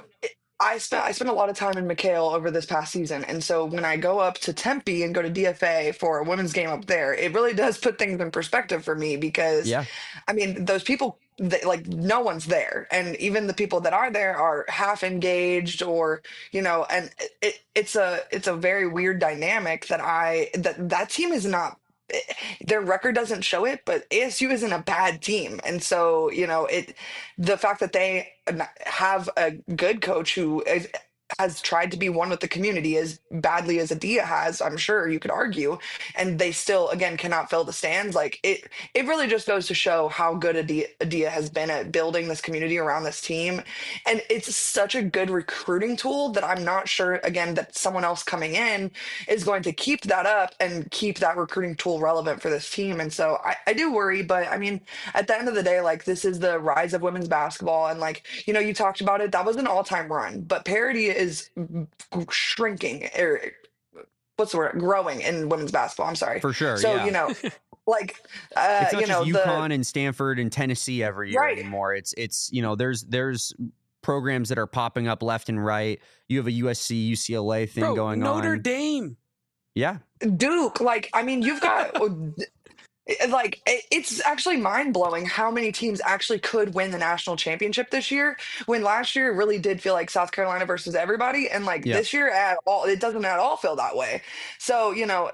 I spent a lot of time in McHale over this past season, and so when I go up to Tempe and go to DFA for a women's game up there, it really does put things in perspective for me, because, Yeah. I mean, those people, like, no one's there, and even the people that are there are half engaged, or and it's a very weird dynamic that team is not. Their record doesn't show it, but ASU isn't a bad team, and so the fact that they have a good coach who has tried to be one with the community as badly as Adia has, I'm sure you could argue, and they still again cannot fill the stands. Like it really just goes to show how good Adia has been at building this community around this team, and it's such a good recruiting tool that I'm not sure again that someone else coming in is going to keep that up and keep that recruiting tool relevant for this team. And so I do worry, but I mean, at the end of the day, like, this is the rise of women's basketball, and like you talked about it, that was an all-time run, but parity is shrinking, or what's the word, growing in women's basketball. I'm sorry. For sure. So yeah. Like it's not just UConn and Stanford and Tennessee every year anymore. It's there's programs that are popping up left and right. You have a USC UCLA thing going on. Notre Dame. Yeah. Duke. Like, I mean, you've got like, it's actually mind-blowing how many teams actually could win the national championship this year, when last year it really did feel like South Carolina versus everybody, and like this year at all, it doesn't at all feel that way. So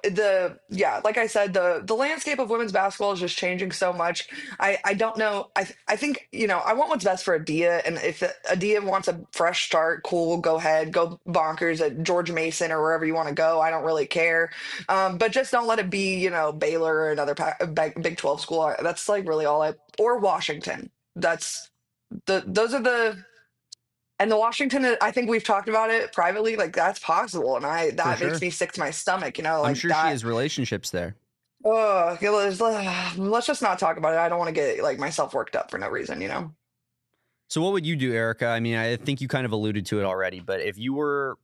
like I said, the landscape of women's basketball is just changing so much. I don't know. I think I want what's best for Adia, and if Adia wants a fresh start, cool, go ahead, go bonkers at George Mason or wherever you want to go. I don't really care, but just don't let it be Baylor or another Big 12 school. That's like really all or Washington. Those are the Washington, I think we've talked about it privately, like that's possible, and that makes me sick to my stomach, like I'm sure she has relationships there. Oh, let's just not talk about it. I don't want to get like myself worked up for no reason, So what would you do, Erica? I mean, I think you kind of alluded to it already, but if you were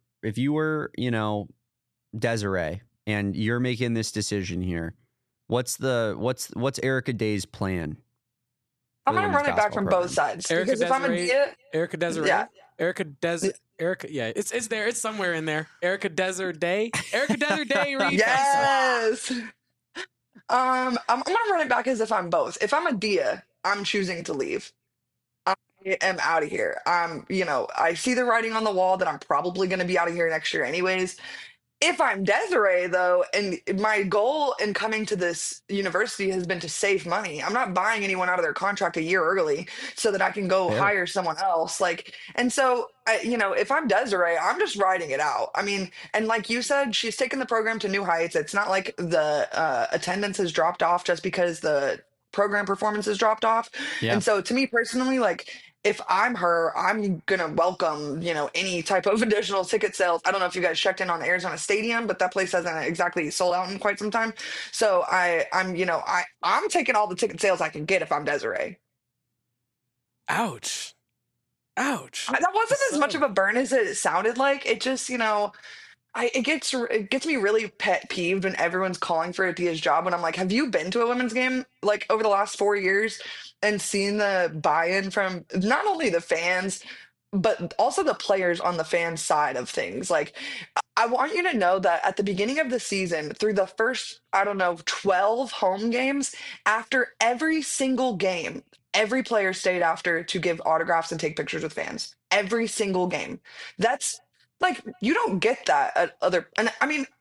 Desiree and you're making this decision here, what's Erica Day's plan? I'm gonna run it back from both sides. Because if I'm Erica Desiree, yeah. Erica, yeah, it's there. It's somewhere in there. Erica Desiree, Erica Desiree. Yes. I'm gonna run it back as if I'm both. If I'm Adia, I'm choosing to leave. I am out of here. I see the writing on the wall that I'm probably going to be out of here next year anyways. If I'm Desiree, though, and my goal in coming to this university has been to save money, I'm not buying anyone out of their contract a year early so that I can go hire someone else. And so, if I'm Desiree, I'm just riding it out. I mean, and like you said, she's taken the program to new heights. It's not like the attendance has dropped off just because the program performance has dropped off. Yeah. And so to me personally, like, if I'm her, I'm going to welcome, any type of additional ticket sales. I don't know if you guys checked in on Arizona Stadium, but that place hasn't exactly sold out in quite some time. So I'm taking all the ticket sales I can get if I'm Desiree. Ouch. That wasn't as much of a burn as it sounded like. It just, it gets me really pet peeved when everyone's calling for Adia's job, when I'm like, have you been to a women's game like over the last 4 years and seen the buy-in from not only the fans but also the players on the fan side of things? Like, I want you to know that at the beginning of the season, through the first 12 home games, after every single game, every player stayed after to give autographs and take pictures with fans. Every single game. That's like, you don't get that at other, and I mean,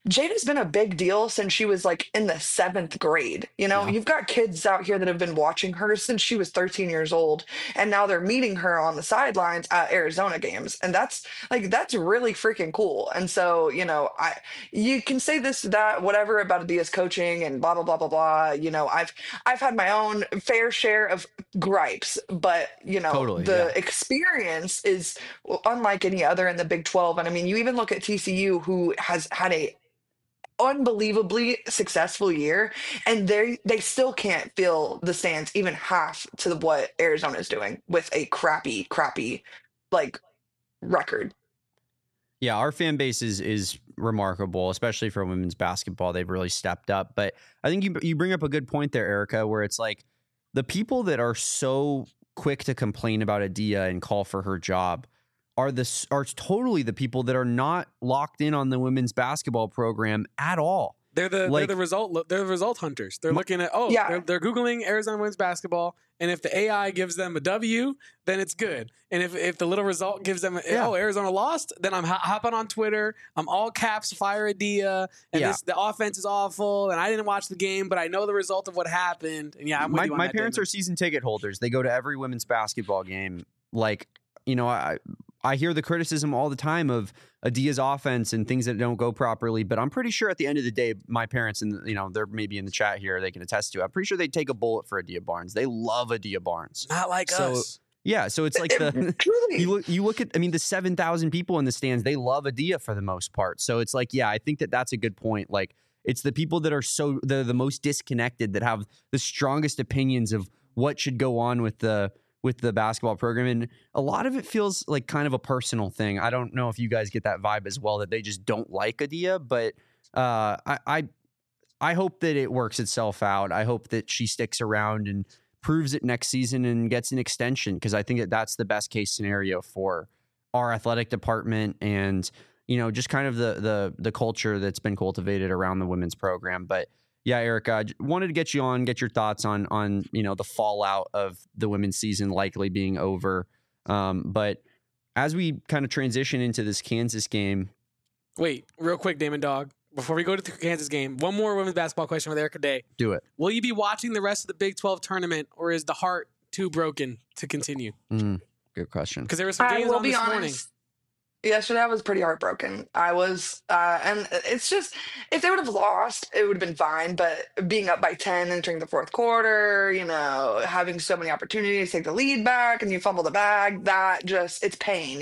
Jada's been a big deal since she was like in the 7th grade. You know, Yeah, you've got kids out here that have been watching her since she was 13 years old, and now they're meeting her on the sidelines at Arizona games. And that's really freaking cool. And so, you can say this, that, whatever about Adia's coaching and blah, blah, blah, blah, blah. I've had my own fair share of gripes, but totally. the Yeah, experience is unlike any other in the Big 12. And I mean, you even look at TCU, who has had a unbelievably successful year, and they still can't fill the stands even half to what Arizona is doing with a crappy like record. yeah. Our fan base is remarkable, especially for women's basketball. They've really stepped up. But I think you bring up a good point there, Erica, where it's like the people that are so quick to complain about Adia and call for her job are totally the people that are not locked in on the women's basketball program at all. They're the result hunters. They're looking at they're Googling Arizona women's basketball, and if the AI gives them a W, then it's good. And if the little result gives them Arizona lost, then I'm hopping on Twitter. I'm all caps fire Adia, and the offense is awful, and I didn't watch the game, but I know the result of what happened. And I'm with you on my that, parents are season ticket holders. They go to every women's basketball game. Like, I hear the criticism all the time of Adia's offense and things that don't go properly, but I'm pretty sure at the end of the day, my parents, and they're maybe in the chat here, they can attest to it. I'm pretty sure they'd take a bullet for Adia Barnes. They love Adia Barnes. Not like us. Yeah, so it's like you look at, the 7,000 people in the stands, they love Adia for the most part. So it's like, I think that's a good point. Like, it's the people that are they're the most disconnected that have the strongest opinions of what should go on with the basketball program. And a lot of it feels like kind of a personal thing. I don't know if you guys get that vibe as well, that they just don't like Adia, but I hope that it works itself out. I hope that she sticks around and proves it next season and gets an extension, because I think that's the best case scenario for our athletic department and, just kind of the culture that's been cultivated around the women's program. But yeah, Erica, I wanted to get your thoughts on the fallout of the women's season likely being over. But as we kind of transition into this Kansas game. Wait, real quick, Damon Dog. Before we go to the Kansas game, one more women's basketball question with Erica Day. Do it. Will you be watching the rest of the Big 12 tournament, or is the heart too broken to continue? Good question. Because there were some games on this morning. Yesterday, I was pretty heartbroken. I was, and it's just, if they would have lost, it would have been fine. But being up by 10 entering the fourth quarter, having so many opportunities to take the lead back and you fumble the bag, it's pain,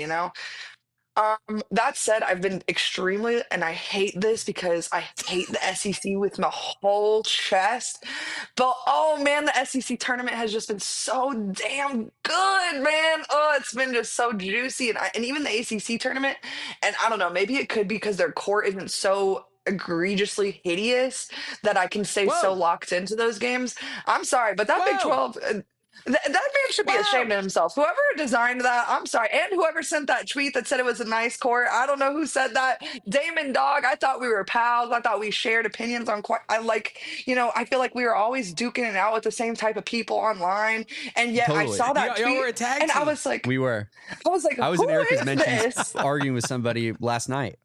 That said, I've been extremely, and I hate this because I hate the SEC with my whole chest. But oh man, the SEC tournament has just been so damn good, man. Oh, it's been just so juicy, and even the ACC tournament. And I don't know, maybe it could be because their court isn't so egregiously hideous that I can stay so locked into those games. I'm sorry, but that Big 12. That man should be ashamed of himself. Whoever designed that, I'm sorry. And whoever sent that tweet that said it was a nice court, I don't know who said that. Damon Dog, I thought we were pals. I thought we shared opinions on I feel like we were always duking it out with the same type of people online. And yet I saw that tweet, were a tag and team. I was like, we were. I was in Erica's mentions arguing with somebody last night.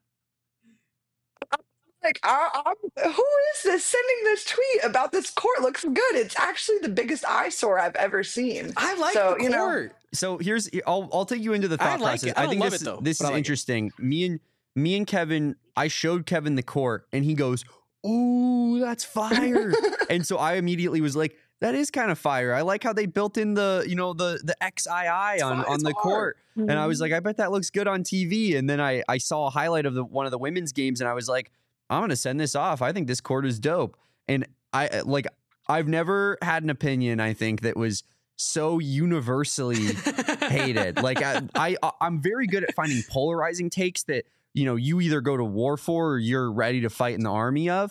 Like, who is this sending this tweet about this court? Looks good. It's actually the biggest eyesore I've ever seen. I like the court. So I'll take you into the thought process. I think this is interesting. Me and Kevin, I showed Kevin the court, and he goes, "Ooh, that's fire!" And so I immediately was like, "That is kind of fire. I like how they built in the XII on the court." Mm-hmm. And I was like, "I bet that looks good on TV." And then I saw a highlight of one of the women's games, and I was like, I'm going to send this off. I think this court is dope. And I've never had an opinion, I think, that was so universally hated. Like I'm very good at finding polarizing takes that, you either go to war for or you're ready to fight in the army of.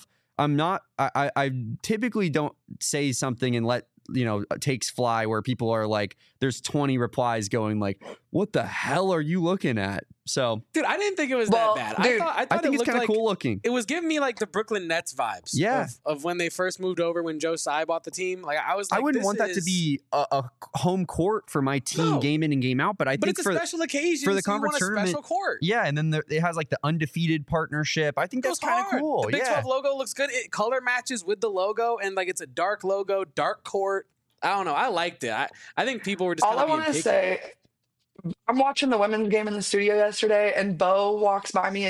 I typically don't say something and let, takes fly where people are like, there's 20 replies going like, "What the hell are you looking at?" So, dude, I didn't think it was Well, that bad. dude, I thought think it it's looked kind of like cool looking. it was giving me like the Brooklyn Nets vibes. Yeah. Of when they first moved over when Joe Tsai bought the team. Like I was like, I wouldn't this want that to is- be a home court for my team No. game in and game out, but I But think it's a special occasion for the so you want conference a tournament, special court. yeah, and then it has like the undefeated partnership. I think that's Goes kind of hard. cool. The Big Yeah. 12 logo looks good. It color matches with the logo, and like it's a dark logo, dark court. I don't know. I liked it. I think people were just All I kind of want being to picky. say, I'm watching the women's game in the studio yesterday, and Bo walks by me, and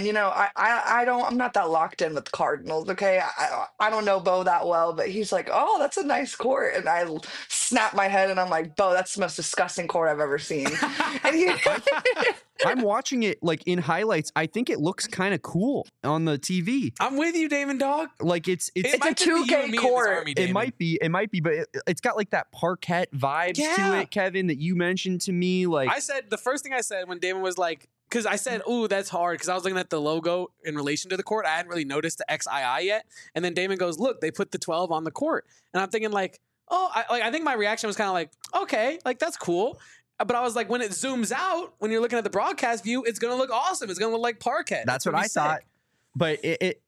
I'm not that locked in with the Cardinals. Okay, I don't know Bo that well, but he's like, "Oh, that's a nice court," and I snap my head, and I'm like, "Bo, that's the most disgusting court I've ever seen." And he, I'm watching it like in highlights. I think it looks kind of cool on the TV. I'm with you, Damon Dog. Like it's It's might a just be you 2K and me in this court. army, it Damon. might be, but it's got like that parquet vibes to Yeah. it, Kevin, that you mentioned to me. Like I said the first thing I said when Damon was like, because I said, "Ooh, that's hard," because I was looking at the logo in relation to the court. I hadn't really noticed the XII yet, and then Damon goes, "Look, they put the 12 on the court," and I'm thinking like, "Oh," I think my reaction was kind of like, "Okay, like that's cool." But I was like, when it zooms out, when you're looking at the broadcast view, it's gonna look awesome. It's gonna look like parquet. That's It's what gonna I be thought. sick. But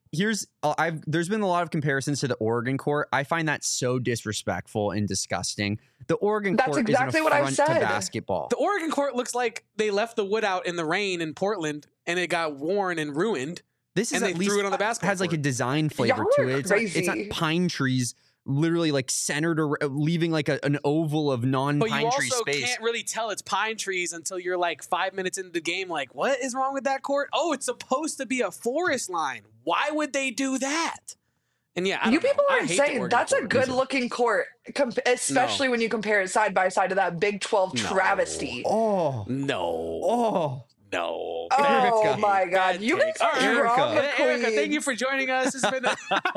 there's been a lot of comparisons to the Oregon court. I find that so disrespectful and disgusting. The Oregon That's court exactly is an what I affront to said. basketball. The Oregon court looks like they left the wood out in the rain in Portland, and it got worn and ruined. This is and they at least threw it on the basketball has like a court. design flavor Y'all to are it. It's not crazy. pine trees, literally like centered or leaving like an oval of But you non-pine tree also space. can't really tell it's pine trees until you're like 5 minutes into the game. Like, what is wrong with that court? Oh, it's supposed to be a forest line. Why would they do that? And yeah, I You don't know. people I are hate the insane. Oregon That's a court. good looking court, especially when you compare it side by side to that Big 12 No. travesty. Oh, No. oh. No. Oh Erica. my God. You guys All are right, drama Erica, thank you queens. for joining us. It's been I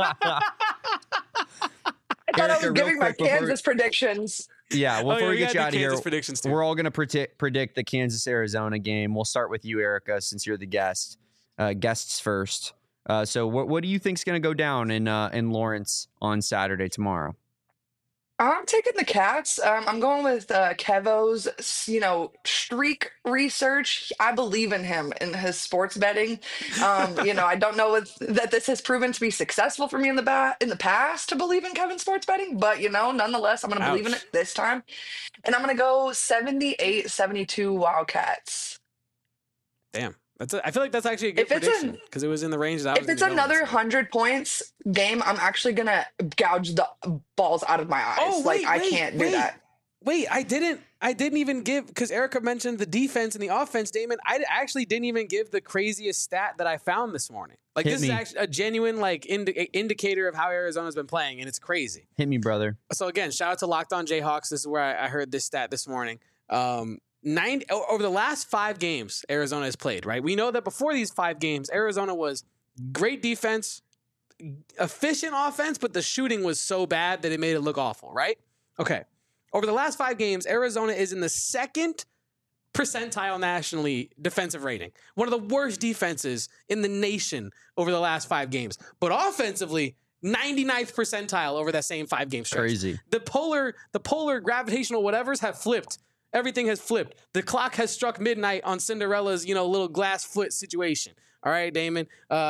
thought I Erica, was real giving my quick before- Kansas predictions. Yeah, well, Oh, before we yeah, get we you gotta out do of here, Kansas predictions too. we're all going to predict the Kansas-Arizona game. We'll start with you, Erica, since you're the guest. Guests first. So what do you think's going to go down in Lawrence on Saturday tomorrow? I'm taking the Cats. I'm going with Kevo's, streak research. I believe in him in his sports betting. I don't know that this has proven to be successful for me in the past to believe in Kevin's sports betting, but nonetheless, I'm going to believe in Ouch. it this time, and I'm going to go 78-72 Wildcats. Damn. I feel like that's actually a good If it's prediction because it was in the range that I was If it's gonna go another with. 100 points game, I'm actually gonna gouge the balls out of my eyes. Oh, wait, I wait, can't do wait. that. Wait, I didn't even give, because Erica mentioned the defense and the offense, Damon. I actually didn't even give the craziest stat that I found this morning. Like, Hit this me. is actually a genuine indicator of how Arizona's been playing, and it's crazy. Hit me, brother. So again, shout out to Locked On Jayhawks. This is where I heard this stat this morning. Over the last 5 games Arizona has played, right? We know that before these 5 games, Arizona was great defense, efficient offense, but the shooting was so bad that it made it look awful, right? Okay. Over the last 5 games, Arizona is in the 2nd percentile nationally defensive rating. One of the worst defenses in the nation over the last 5 games. But offensively, 99th percentile over that same 5-game stretch. Crazy. The polar gravitational whatevers have flipped. Everything has flipped. The clock has struck midnight on Cinderella's, little glass foot situation. All right, Damon.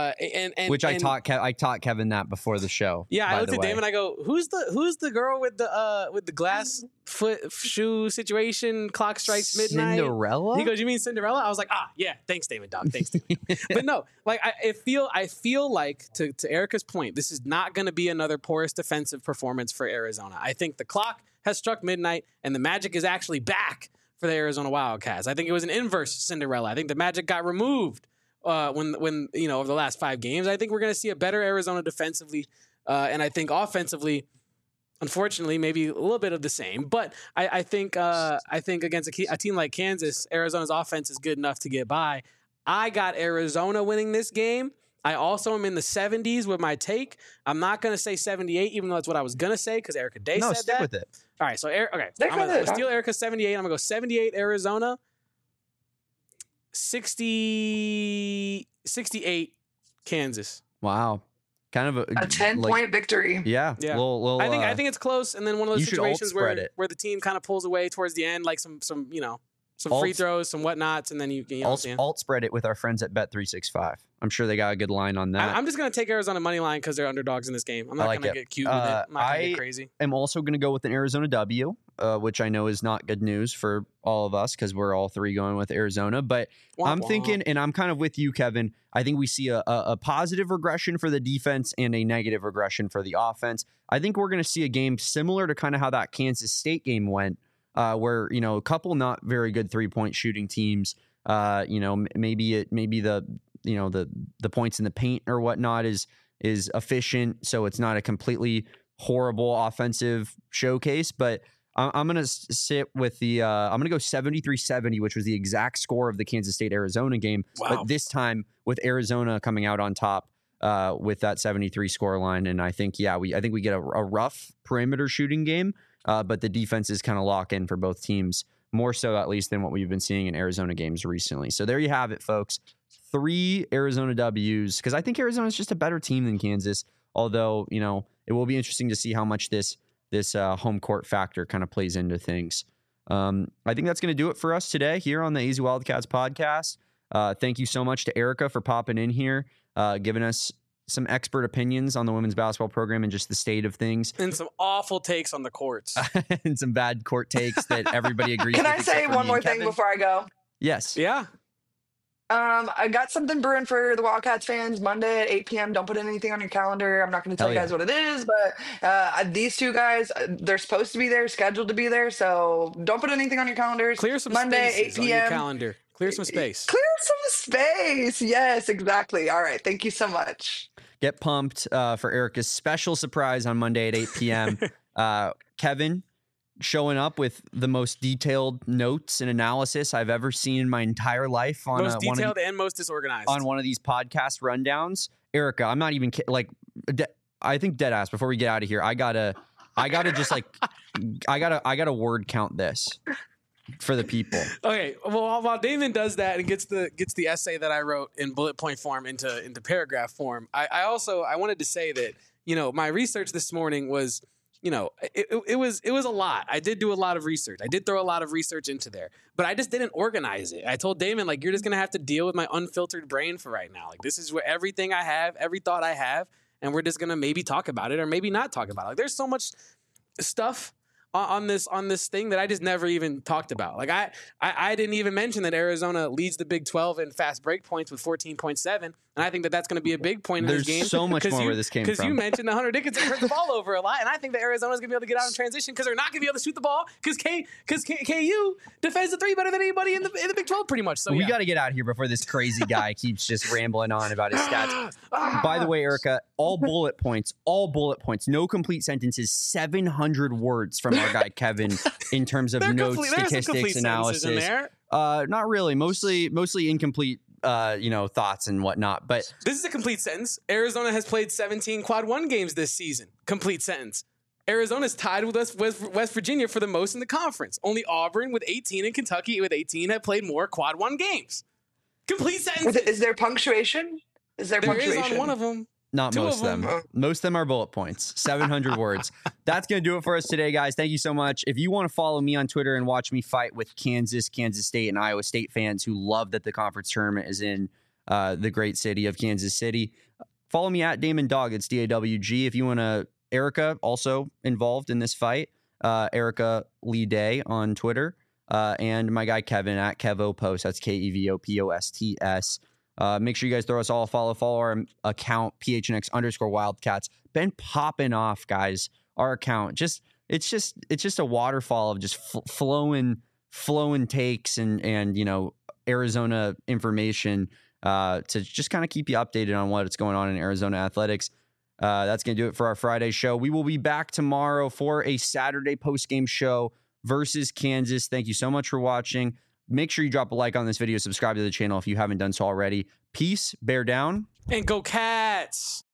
I taught Kevin that before the show. Yeah, I by looked the at way. Damon. I go, who's the girl with the glass foot shoe situation? Clock strikes midnight. Cinderella? He goes, you mean Cinderella? I was like, yeah, thanks, Damon, dog. Thanks, Damon. But no, like I feel like to Erica's point, this is not going to be another porous defensive performance for Arizona. I think the clock has struck midnight, and the magic is actually back for the Arizona Wildcats. I think it was an inverse Cinderella. I think the magic got removed when over the last 5 games. I think we're going to see a better Arizona defensively, and I think offensively, unfortunately, maybe a little bit of the same. But I think against a team like Kansas, Arizona's offense is good enough to get by. I got Arizona winning this game. I also am in the 70s with my take. I'm not going to say 78, even though that's what I was going to say because Erica Day said stick that. with it. All right, so okay, Stick I'm going with it. to steal Erica's 78. I'm going to go 78 Arizona, 68 Kansas. Wow. kind of A 10-point victory. Yeah. Yeah. Little, I think it's close, and then one of those you should situations alt-spread it. where the team kind of pulls away towards the end, like some free throws, some whatnots, and then you know what I'm saying? alt spread it with our friends at Bet365. I'm sure they got a good line on that. I'm just gonna take Arizona money line because they're underdogs in this game. I'm not like gonna it. get cute with it. I'm not gonna get crazy. I'm also going to go with an Arizona W, which I know is not good news for all of us because we're all three going with Arizona. But I'm thinking, and I'm kind of with you, Kevin. I think we see a positive regression for the defense and a negative regression for the offense. I think we're going to see a game similar to kind of how that Kansas State game went, where a couple not very good 3-point shooting teams. Maybe the points in the paint or whatnot is efficient, so it's not a completely horrible offensive showcase. But I'm going to sit with I'm going to go 73-70, which was the exact score of the Kansas State-Arizona game. Wow. But this time with Arizona coming out on top with that 73 score line. And I think, we get a rough perimeter shooting game, but the defenses kind of lock in for both teams, more so at least than what we've been seeing in Arizona games recently. So there you have it, folks. 3 Arizona W's, because I think Arizona is just a better team than Kansas, although, it will be interesting to see how much this home court factor kind of plays into things. I think that's going to do it for us today here on the AZ Wildcats podcast. Thank you so much to Erica for popping in here, giving us some expert opinions on the women's basketball program and just the state of things. And some awful takes on the courts. And some bad court takes that everybody agrees Can with. I say one more thing before I go? Yes. Yeah. I got something brewing for the Wildcats fans Monday at 8 p.m. Don't put anything on your calendar. I'm not going to tell you guys what it is, but these two guys, they're supposed to be there, scheduled to be there. So don't put anything on your calendars. Clear some Monday, spaces 8 on your p.m. calendar. Clear some space. Clear some space. Yes, exactly. All right. Thank you so much. Get pumped for Erica's special surprise on Monday at 8 p.m. Kevin showing up with the most detailed notes and analysis I've ever seen in my entire life on most detailed and most disorganized on one of these podcast rundowns. Erica, I'm not even I think dead ass. Before we get out of here, I gotta just I gotta word count this for the people. Okay, well, while Damon does that and gets the essay that I wrote in bullet point form into paragraph form, I wanted to say that my research this morning was. It was a lot. I did do a lot of research. I did throw a lot of research into there, but I just didn't organize it. I told Damon, you're just going to have to deal with my unfiltered brain for right now. This is where everything I have, every thought I have, and we're just going to maybe talk about it or maybe not talk about it. There's so much stuff on this thing that I just never even talked about. I didn't even mention that Arizona leads the Big 12 in fast break points with 14.7, and I think that's going to be a big point in this game. There's so much more where this came from. Because you mentioned that Hunter Dickinson hurt the ball over a lot, and I think that Arizona's going to be able to get out in transition because they're not going to be able to shoot the ball because KU defends the 3 better than anybody in the Big 12 pretty much. So we got to get out of here before this crazy guy keeps just rambling on about his stats. By the way, Erica, all bullet points, no complete sentences, 700 words from our guy Kevin in terms of notes, statistics, analysis. Not really, mostly incomplete. Thoughts and whatnot. But this is a complete sentence. Arizona has played 17 quad 1 games this season. Complete sentence. Arizona's tied with West Virginia for the most in the conference. Only Auburn with 18 and Kentucky with 18 have played more quad 1 games. Complete sentence. Is there punctuation? There punctuation? Is on one of them. Not most of them. Most of them are bullet points. 700 words. That's going to do it for us today, guys. Thank you so much. If you want to follow me on Twitter and watch me fight with Kansas State, and Iowa State fans who love that the conference tournament is in the great city of Kansas City, follow me at Damon Dog. It's DAWG. If you want to, Erica also involved in this fight. Erica Lee Day on Twitter. And my guy Kevin at KevoPost. That's KEVOPOSTS. Make sure you guys throw us all a follow our account, PHNX_Wildcats. Been popping off, guys. Our account. It's just a waterfall of just flowing takes and Arizona information to just kind of keep you updated on what's going on in Arizona athletics. That's going to do it for our Friday show. We will be back tomorrow for a Saturday post-game show versus Kansas. Thank you so much for watching. Make sure you drop a like on this video. Subscribe to the channel if you haven't done so already. Peace. Bear down. And go Cats.